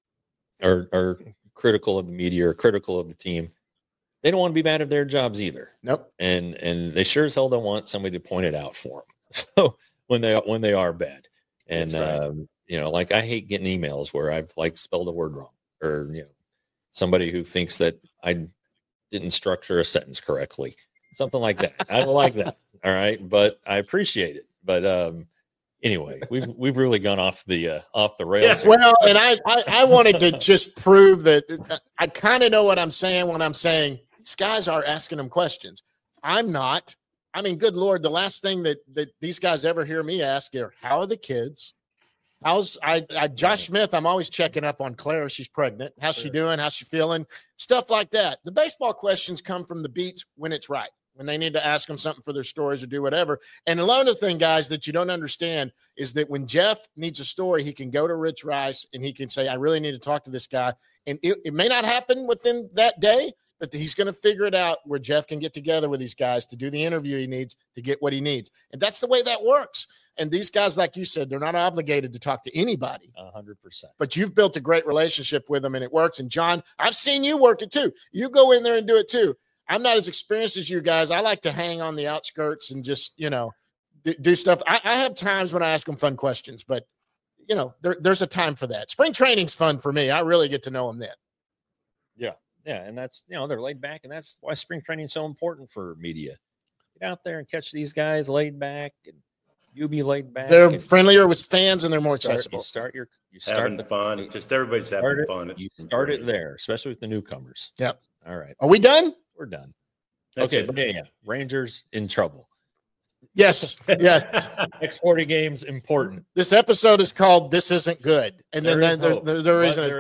are critical of the media or critical of the team, they don't want to be bad at their jobs either.
Nope.
And they sure as hell don't want somebody to point it out for them. So when they are bad, and right. Like I hate getting emails where I've spelled a word wrong, or somebody who thinks that I didn't structure a sentence correctly, something like that. I don't like that. All right, but I appreciate it. But anyway, we've really gone off the rails.
Yeah, well, and I wanted to just prove that I kind of know what I'm saying when I'm saying these guys are asking them questions. I'm not. I mean, good Lord, the last thing that these guys ever hear me ask are, how are the kids? How's Josh Smith? I'm always checking up on Claire. She's pregnant. How's she doing? How's she feeling? Stuff like that. The baseball questions come from the beats when it's right, when they need to ask them something for their stories or do whatever. And another thing, guys, that you don't understand is that when Jeff needs a story, he can go to Rich Rice and he can say, I really need to talk to this guy. And it may not happen within that day, but he's going to figure it out where Jeff can get together with these guys to do the interview he needs to get what he needs. And that's the way that works. And these guys, like you said, they're not obligated to talk to anybody.
100%.
But you've built a great relationship with them and it works. And John, I've seen you work it too. You go in there and do it too. I'm not as experienced as you guys. I like to hang on the outskirts and just, do stuff. I have times when I ask them fun questions, but there's a time for that. Spring training's fun for me. I really get to know them then.
Yeah, and that's, they're laid back, and that's why spring training is so important for media. Get out there and catch these guys laid back, and you be laid back.
They're friendlier with fans, and they're more accessible.
You start
having fun. Just everybody's having fun.
You start it there, especially with the newcomers.
Yep.
All right.
Are we done?
We're done.
That's
okay,
it.
but yeah, Rangers in trouble.
Yes.
Next 40 games important.
This episode is called "This Isn't Good," and then there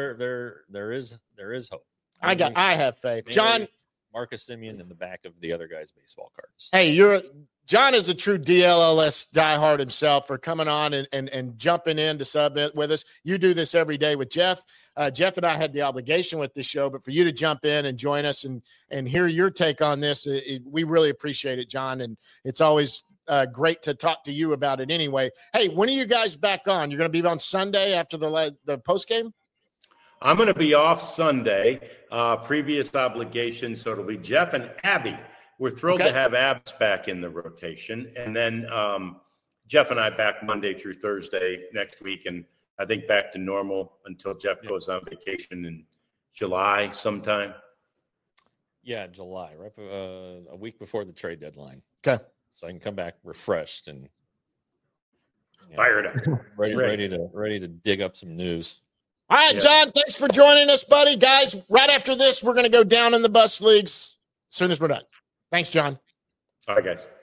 is hope.
I have faith.
Maybe
John,
Marcus Semien in the back of the other guy's baseball cards.
Hey, John is a true DLLS diehard himself for coming on and jumping in to sub with us. You do this every day with Jeff. Jeff and I had the obligation with this show, but for you to jump in and join us and hear your take on this, we really appreciate it, John. And it's always great to talk to you about it anyway. Hey, when are you guys back on? You're going to be on Sunday after the post game?
I'm going to be off Sunday, previous obligation. So it'll be Jeff and Abby. We're thrilled to have Abs back in the rotation. And then Jeff and I back Monday through Thursday next week. And I think back to normal until Jeff goes on vacation in July sometime.
Yeah, July, right? A week before the trade deadline.
Okay.
So I can come back refreshed and
fired up.
ready to dig up some news.
All right, John, thanks for joining us, buddy. Guys, right after this, we're going to go down in the bus leagues as soon as we're done. Thanks, John.
All right, guys.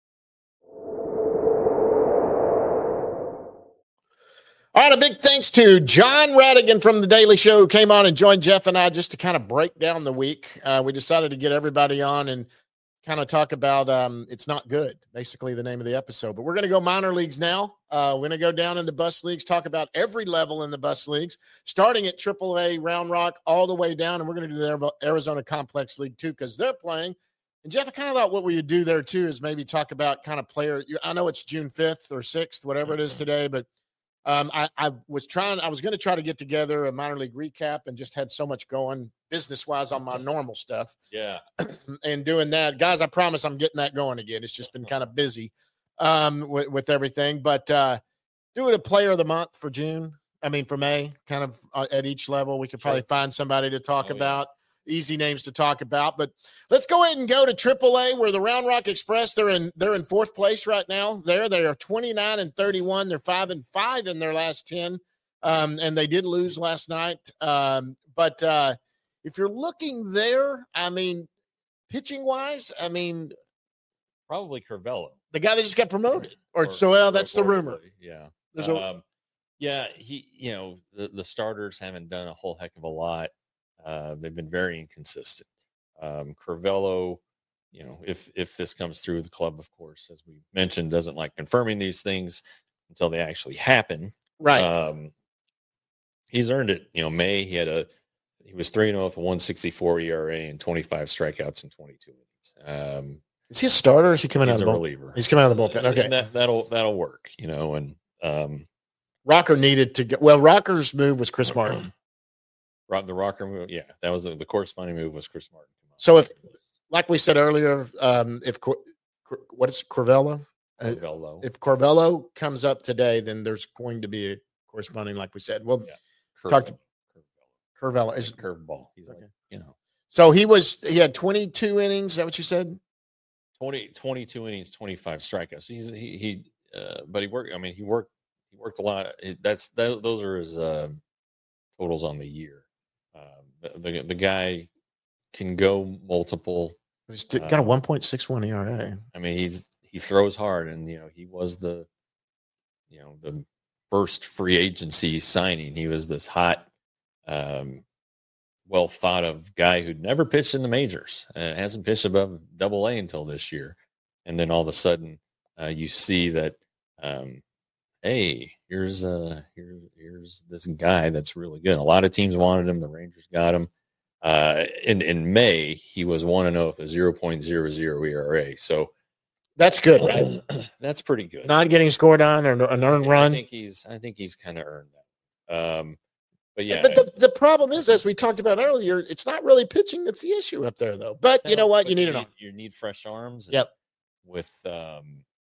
All right, a big thanks to John Radigan from The Daily Show who came on and joined Jeff and I just to kind of break down the week. We decided to get everybody on and kind of talk about It's Not Good, basically the name of the episode. But we're going to go minor leagues now. We're going to go down in the bus leagues, talk about every level in the bus leagues, starting at AAA Round Rock all the way down. And we're going to do the Arizona Complex League too because they're playing. And Jeff, I kind of thought what we would do there too is maybe talk about kind of player. I know it's June 5th or 6th, whatever it is today, but I was going to try to get together a minor league recap and just had so much going business-wise on my normal stuff.
Yeah.
And doing that. Guys, I promise I'm getting that going again. It's just been kind of busy. with everything. But do it a player of the month for June. I mean, for May, kind of at each level, we could probably find somebody to talk about. Easy names to talk about. But let's go ahead and go to AAA, where the Round Rock Express, they're in fourth place right now. They are 29-31. They're 5-5 in their last 10. And they did lose last night. But if you're looking there, I mean, pitching wise, I mean,
probably Curvelo,
the guy that just got promoted, that's the rumor.
Yeah.
There's
the starters haven't done a whole heck of a lot. They've been very inconsistent. Curvelo, if this comes through, the club, of course, as we mentioned, doesn't like confirming these things until they actually happen.
Right.
He's earned it. May he was 3-0 with a 1.64 ERA and 25 strikeouts in 22 innings.
Is he a starter? Or is he coming out of the bullpen?
Reliever.
He's coming out of the bullpen. Okay,
that'll work. And
Rocker needed to go. Well, Rocker's move was Chris Martin.
The Rocker move, yeah, that was the corresponding move was Chris Martin.
So if, like we said earlier, if what is Curvelo? If Curvelo comes up today, then there's going to be a corresponding, like we said. Well, talk to Curvelo. Is
curveball. He's okay.
So he had 22 innings. Is that what you said?
22 innings, 25 strikeouts. But he worked. I mean, he worked a lot. Those are his totals on the year. The guy can go multiple.
He's got a 1.61 ERA.
I mean, he throws hard, and he was the first free agency signing. He was this hot, well thought of guy who'd never pitched in the majors, hasn't pitched above Double A until this year, and then all of a sudden you see that, hey, here's this guy that's really good. A lot of teams wanted him. The Rangers got him. In May, he was 1-0 with a 0.00 ERA. So
that's good, right?
That's pretty good.
Not getting scored on or an earned run.
I think he's kind of earned that. But yeah.
But the problem is, as we talked about earlier, it's not really pitching that's the issue up there, though. But you know what? You
need fresh arms.
Yep.
With the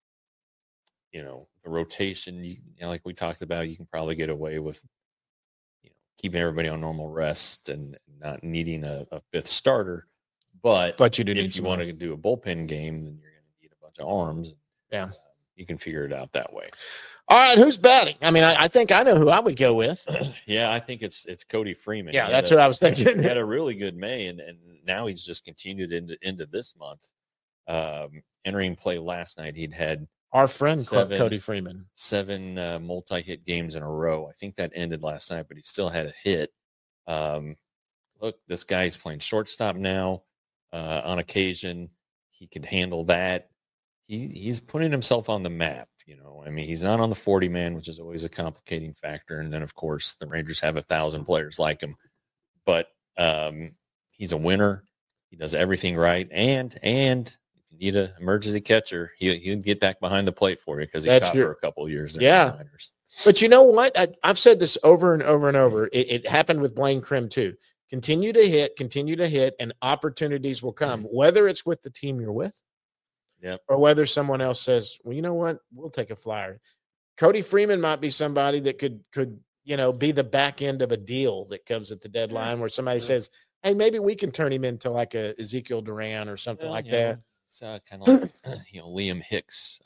rotation, like we talked about, you can probably get away with keeping everybody on normal rest and not needing a fifth starter. But
you do
if you want to do a bullpen game, then you're going to need a bunch of arms.
Yeah,
you can figure it out that way.
All right, who's batting? I mean, I think I know who I would go with.
Yeah, I think it's Cody Freeman.
Yeah, that's what I was thinking.
He had a really good May, and now he's just continued into this month. Entering play last night, he'd had
our friend Cody Freeman
7 multi-hit games in a row. I think that ended last night, but he still had a hit. Look, this guy's playing shortstop now. On occasion, he could handle that. He's putting himself on the map. I mean, he's not on the 40-man, which is always a complicating factor. And then, of course, the Rangers have 1,000 players like him. But he's a winner. He does everything right. And if you need an emergency catcher, he'll get back behind the plate for you because he caught for a couple of years.
Yeah. But you know what? I've said this over and over and over. It happened with Blaine Krim, too. Continue to hit, and opportunities will come, whether it's with the team you're with.
Yep.
Or whether someone else says, well, you know what, we'll take a flyer. Cody Freeman might be somebody that could be the back end of a deal that comes at the deadline where somebody says, hey, maybe we can turn him into like a Ezekiel Duran or something like that.
It's kind of like Liam Hicks.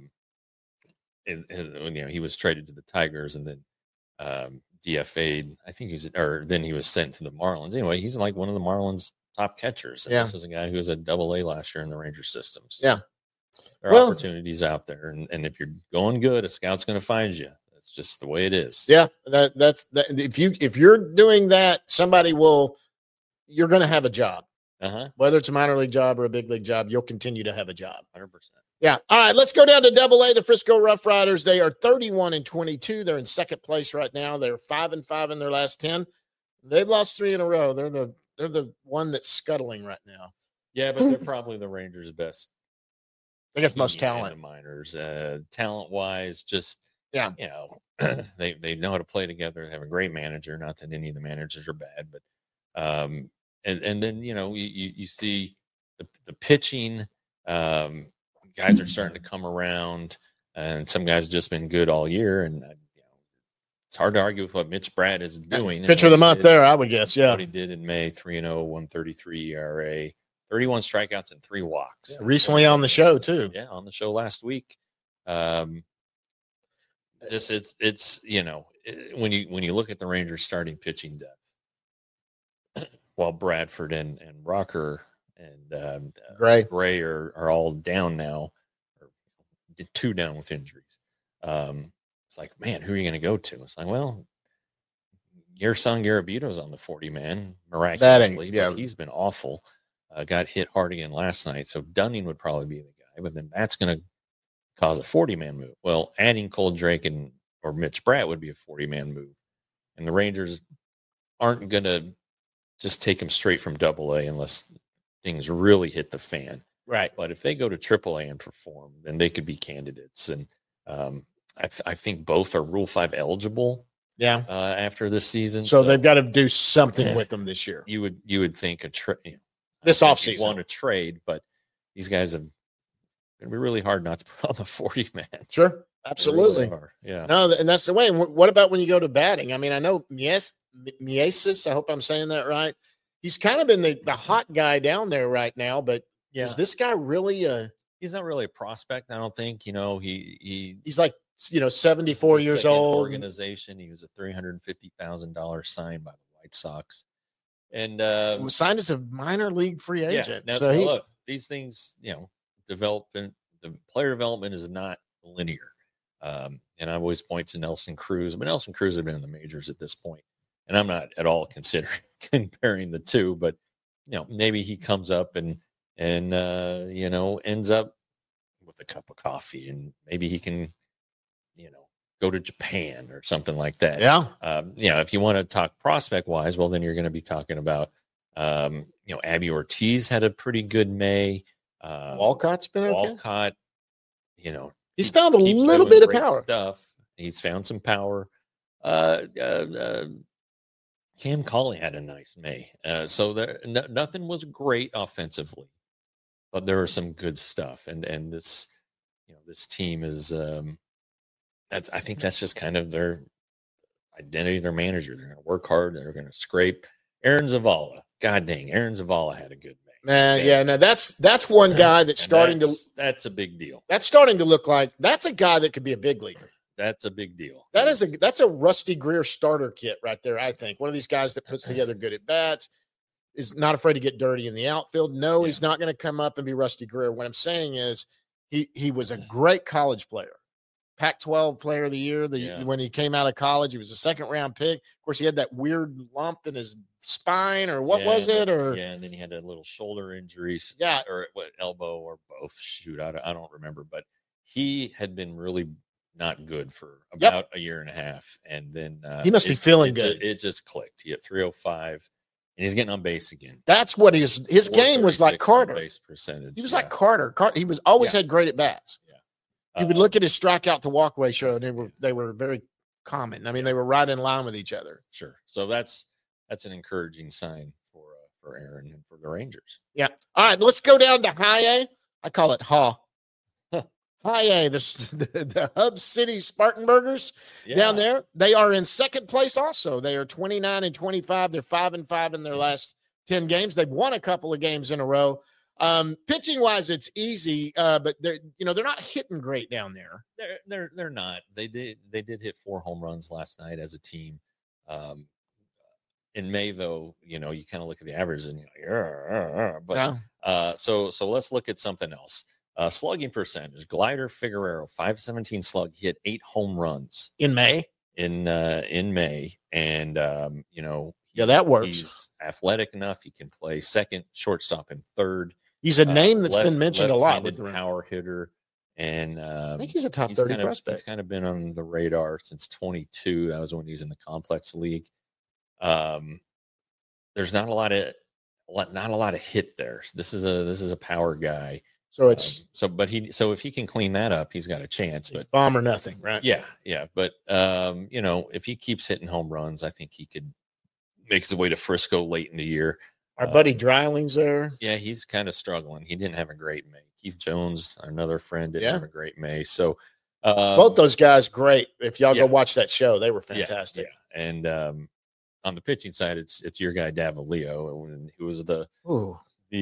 He was traded to the Tigers and then DFA'd. I think then he was sent to the Marlins. Anyway, he's like one of the Marlins' top catchers. And this was a guy who was a Double A last year in the Ranger systems.
Yeah.
There are opportunities out there. And if you're going good, a scout's going to find you. That's just the way it is.
Yeah. That's if you're doing that, you're going to have a job. Whether it's a minor league job or a big league job, you'll continue to have a job.
100%.
Yeah. All right. Let's go down to Double A. The Frisco Rough Riders. They are 31-22. They're in second place right now. They're 5-5 in their last 10. They've lost 3 in a row. They're the one that's scuttling right now.
Yeah, but they're probably the Rangers' best.
They got the most talent.
In the minors, talent-wise, just they know how to play together. They have a great manager. Not that any of the managers are bad, but and then you see the pitching. guys are starting to come around, and some guys have just been good all year. And it's hard to argue with what Mitch Bratt is doing.
Pitcher of the month there, I would guess. Yeah.
What he did in May, 3-0, 133 ERA, 31 strikeouts and 3 walks.
Yeah, recently on the show too.
Yeah, on the show last week. When you look at the Rangers starting pitching depth, while Bradford and Rocker and Gray are all down now, or 2 down with injuries. It's like, man, who are you going to go to? It's like, well, your son Garabito's on the 40-man miraculously, but he's been awful. Got hit hard again last night, so Dunning would probably be the guy, but then that's going to cause a 40-man move. Well, adding Cole Drake or Mitch Bratt would be a 40-man move, and the Rangers aren't going to just take him straight from AA unless things really hit the fan.
Right.
But if they go to AAA and perform, then they could be candidates, and I think both are Rule 5 eligible.
Yeah.
After this season,
so they've got to do something with them this year.
You would think
this offseason
want to trade, but these guys have going to be really hard not to put on the 40-man.
Sure, absolutely.
Really yeah.
No, and that's the way. And what about when you go to batting? I mean, I know Miesis. I hope I'm saying that right. He's kind of been the hot guy down there right now, but is this guy really
He's not really a prospect, I don't think. He's
like 74 years old.
Organization. He was a $350,000 signed by the White Sox, and
was signed as a minor league free agent.
Yeah. Now, look, these things, development. The player development is not linear, and I always point to Nelson Cruz. But Nelson Cruz had been in the majors at this point, and I'm not at all considering comparing the two. But maybe he comes up and ends up with a cup of coffee, and maybe he can, go to Japan or something like that.
Yeah.
If you want to talk prospect wise, well, then you're going to be talking about, Abby Ortiz had a pretty good May.
Walcott's been okay.
Walcott,
he's found a little bit of power.
Stuff. He's found some power. Cam Cauley had a nice May. So nothing was great offensively, but there was some good stuff. And this, this team is, I think that's just kind of their identity, their manager. They're going to work hard. They're going to scrape. Aaron Zavala. God dang, Aaron Zavala had a good May.
That's one guy that's starting
that's a big deal.
That's starting to look like that's a guy that could be a big leaguer.
That's a big deal.
That's a Rusty Greer starter kit right there. I think one of these guys that puts together good at bats, is not afraid to get dirty in the outfield. No, he's not going to come up and be Rusty Greer. What I'm saying is he was a great college player. Pac-12 player of the year. When he came out of college, he was a second-round pick. Of course, he had that weird lump in his spine, or what was it?
And then he had a little shoulder injuries.
Yeah,
or elbow, or both. Shoot, I don't remember. But he had been really not good for about a year and a half, and then
he must be feeling good.
It just clicked. He hit 305, and he's getting on base again.
That's what his game was like. Carter
base percentage.
He was like Carter. He was always had great at bats. You would look at his strikeout to walkway show, and they were very common. I mean, they were right in line with each other.
Sure. So that's an encouraging sign for Aaron and for the Rangers.
Yeah. All right, let's go down to High A. I call it High A, the Hub City Spartanburgers down there. They are in second place also. They are 29-25. They're 5-5 in their last 10 games. They've won a couple of games in a row. Pitching wise, it's easy, but they're not hitting great down there.
They're not. They did hit 4 home runs last night as a team. In May, though, you kind of look at the average and so let's look at something else. Slugging percentage. Glider Figueroa, 517 slug. He hit 8 home runs
in May.
In May, and
that works.
He's athletic enough. He can play second, shortstop, and third.
He's a name that's been mentioned a lot with the
power hitter, and
I think he's a top 30 prospect.
He's kind of been on the radar since 22. That was when he was in the complex league. There's not a lot of hit there. This is a power guy.
So it's
but if he can clean that up, he's got a chance. But
bomb or nothing, right?
Yeah. But if he keeps hitting home runs, I think he could make his way to Frisco late in the year.
Our buddy Dryling's there.
Yeah, he's kind of struggling. He didn't have a great May. Keith Jones, another friend, didn't
Yeah.
have a great May. So
both those guys, great. If y'all
yeah.
go watch that show, they were
yeah,
fantastic.
yeah. And on the pitching side, it's your guy Davalillo, who was the
Ooh,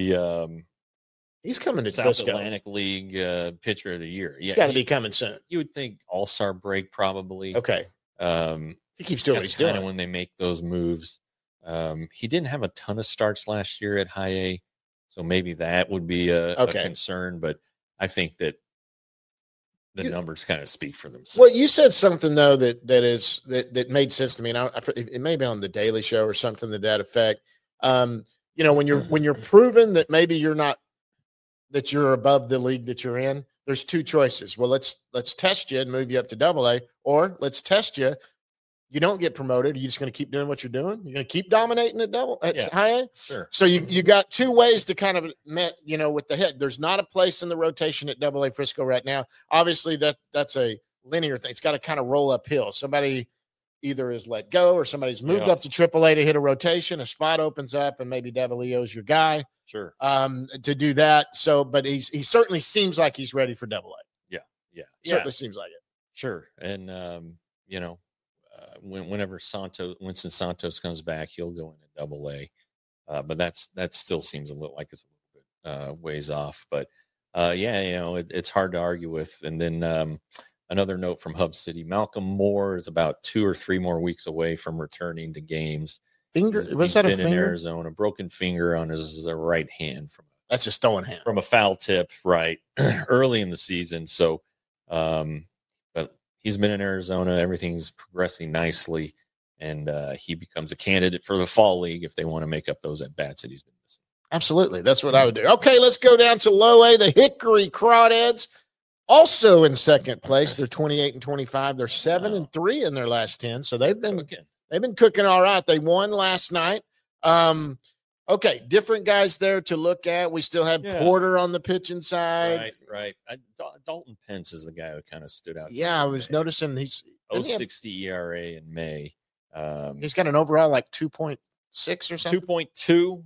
he's coming to
South
Frisco.
Atlantic League pitcher of the year.
He's got to be coming soon.
You would think All-Star break probably.
Okay. He keeps doing what he's doing.
When they make those moves. He didn't have a ton of starts last year at high A, so maybe that would be a concern. But I think that the numbers kind of speak for themselves.
Well, you said something though that made sense to me, and it may be on the Daily Show or something to that effect. When you're proven that maybe you're not, that you're above the league that you're in, there's two choices. Well, let's test you and move you up to AA, or let's test you. You don't get promoted. Are you just going to keep doing what you're doing? You're going to keep dominating at high A?
Sure.
So you got two ways to kind of with the head. There's not a place in the rotation at AA Frisco right now. Obviously, that's a linear thing. It's got to kind of roll uphill. Somebody either is let go or somebody's moved up to AAA to hit a rotation. A spot opens up, and maybe Davalillo's your guy.
Sure.
To do that. So, but he certainly seems like he's ready for AA.
Yeah.
Certainly seems like it.
Sure. And whenever Winston Santos comes back, he'll go into AA. But that still seems a little like it's a little bit ways off. But it's hard to argue with. And then another note from Hub City: Malcolm Moore is about 2 or 3 more weeks away from returning to games.
Was that a finger?
In Arizona, broken finger on his right hand
that's his throwing hand
from a foul tip, right, early in the season. So, but he's been in Arizona. Everything's progressing nicely, and he becomes a candidate for the fall league if they want to make up those at bats that he's been missing.
Absolutely, that's what I would do. Okay, let's go down to Low A. The Hickory Crawdads, also in second place. They're 28-25. They're 7-3 in their last 10. So they've been cooking all right. They won last night. Okay, different guys there to look at. We still have Porter on the pitching side.
Right. Dalton Pence is the guy who kind of stood out.
Yeah, I was noticing he's
0.60 ERA in May.
He's got an overall like 2.6 or something.
2.2.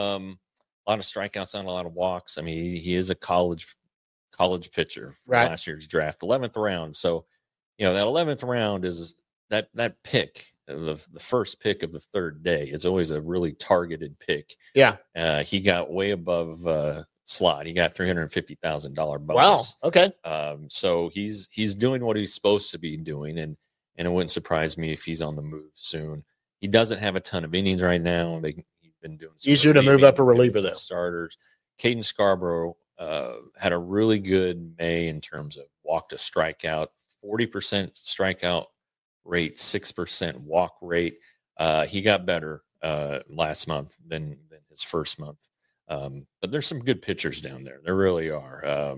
A lot of strikeouts, not a lot of walks. I mean, he is a college pitcher from last year's draft, 11th round. So, that 11th round is that pick. The first pick of the third day. It's always a really targeted pick.
Yeah.
He got way above slot. He got $350,000 bonus.
Wow. Okay.
So he's doing what he's supposed to be doing, and it wouldn't surprise me if he's on the move soon. He doesn't have a ton of innings right now. He's been doing
easier to move up a reliever though.
Starters. Caden Scarborough had a really good May in terms of walk to strikeout, 40% strikeout rate, 6% walk rate. He got better last month than his first month. But there's some good pitchers down there. There really are.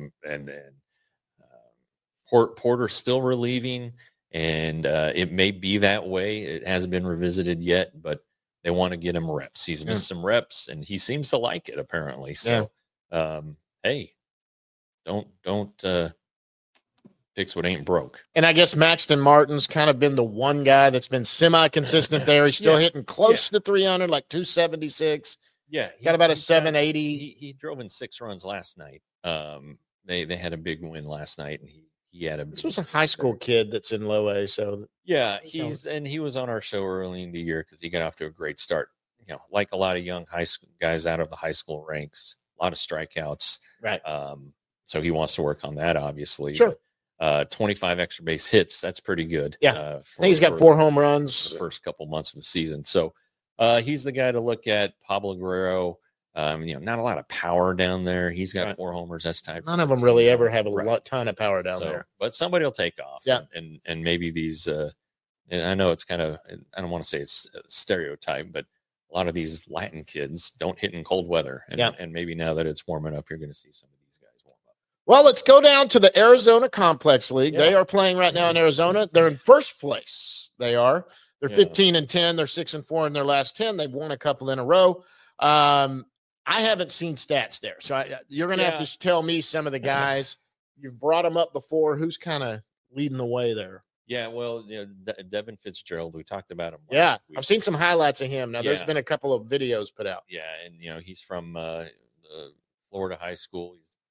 Porter's still relieving, and it may be that way. It hasn't been revisited yet, but they want to get him reps. He's missed some reps, and he seems to like it apparently. So, hey, don't fix what ain't broke.
And I guess Maxton Martin's kind of been the one guy that's been semi-consistent there. He's still hitting close to 300, like 276.
Yeah.
Got about a 780.
He drove in 6 runs last night. They had a big win last night, and he had
This was a high school kid that's in Low A, so
he was on our show early in the year because he got off to a great start. Like a lot of young high school guys out of the high school ranks, a lot of strikeouts.
Right.
So he wants to work on that, obviously.
Sure.
25 extra base hits. That's pretty good.
Yeah. I think he's got 4 home runs
the first couple months of the season. So he's the guy to look at. Pablo Guerrero, not a lot of power down there. He's got 4 homers. That's tied.
None of them really ever have a ton of power down there.
But somebody will take off.
Yeah.
And maybe these, and I know it's kind of, I don't want to say it's a stereotype, but a lot of these Latin kids don't hit in cold weather. And maybe now that it's warming up, you're going to see some of these guys warm up.
Well, let's go down to the Arizona Complex League. They are playing right now in Arizona. They're in first place. They're 15-10. They're 6-4 in their last 10. They've won a couple in a row. I haven't seen stats there. So you're going to have to tell me some of the guys. You've brought them up before. Who's kind of leading the way there?
Yeah, well, Devin Fitzgerald, we talked about him.
Yeah, I've seen some highlights of him. Now, there's been a couple of videos put out.
Yeah, and, he's from Florida high school. He's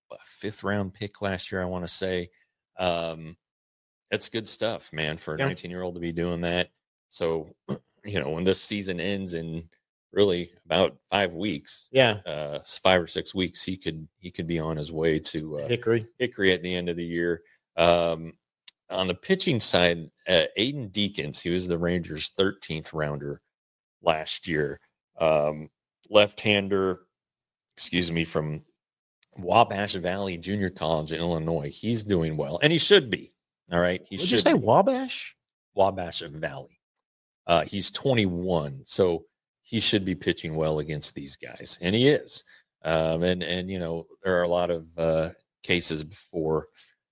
fifth round pick last year, I want to say. That's good stuff, man, for a 19-year-old to be doing that. So, when this season ends in really about 5 weeks, 5 or 6 weeks, he could be on his way to Hickory at the end of the year. On the pitching side, Aiden Deakins, he was the Rangers' 13th rounder last year. Left-hander, from Wabash Valley Junior College in Illinois. He's doing well, and he should be. All right.
Did you say Wabash?
Wabash Valley. He's 21, so he should be pitching well against these guys, and he is. And there are a lot of cases before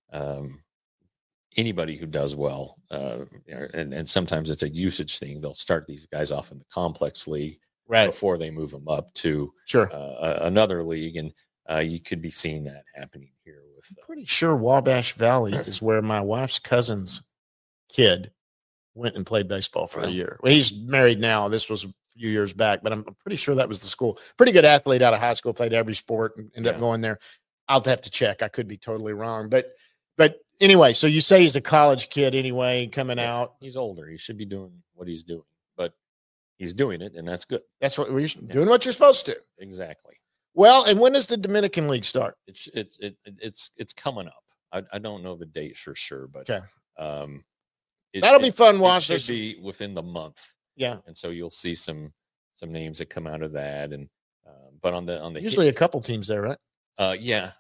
anybody who does well, and sometimes it's a usage thing. They'll start these guys off in the complex league before they move them up to another league, and you could be seeing that happening here.
I'm pretty sure Wabash Valley is where my wife's cousin's kid went and played baseball for a year. Well, he's married now. This was a few years back, but I'm pretty sure that was the school. Pretty good athlete out of high school, played every sport and ended up going there. I'll have to check. I could be totally wrong. But anyway, so you say he's a college kid anyway, coming out.
He's older. He should be doing what he's doing, but he's doing it, and that's good.
That's what we're doing what you're supposed to.
Exactly.
Well, and when does the Dominican League start?
It's coming up. I don't know the date for sure, but
that'll be fun. Watch
this. It should be within the month.
Yeah,
and so you'll see some names that come out of that, and but on the
usually a couple teams there, right?
Yeah.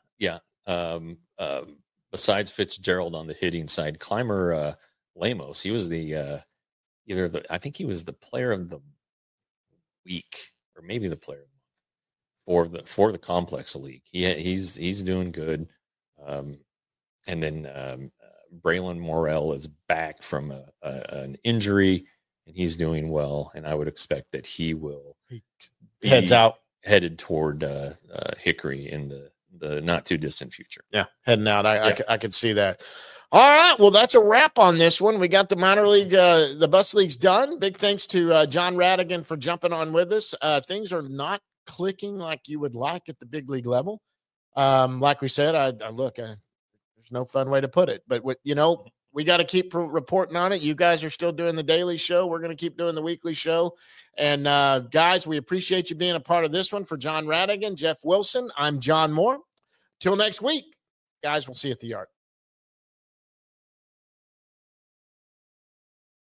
Besides Fitzgerald on the hitting side, Clymer Lemos, he was I think he was the player of the week, or maybe the player for the complex league. He's doing good. And then Braylon Morrell is back from an injury, and he's doing well. And I would expect that he will be headed toward Hickory in the not too distant future.
Yeah, heading out. I could see that. All right, well, that's a wrap on this one. We got the minor league, the bus leagues done. Big thanks to John Radigan for jumping on with us. Things are not clicking like you would like at the big league level. Like we said, there's no fun way to put it, but we got to keep reporting on it. You guys are still doing the daily show. We're going to keep doing the weekly show. And guys, we appreciate you being a part of this one. For John Radigan, Jeff Wilson, I'm John Moore. Till next week, guys, we'll see you at the yard.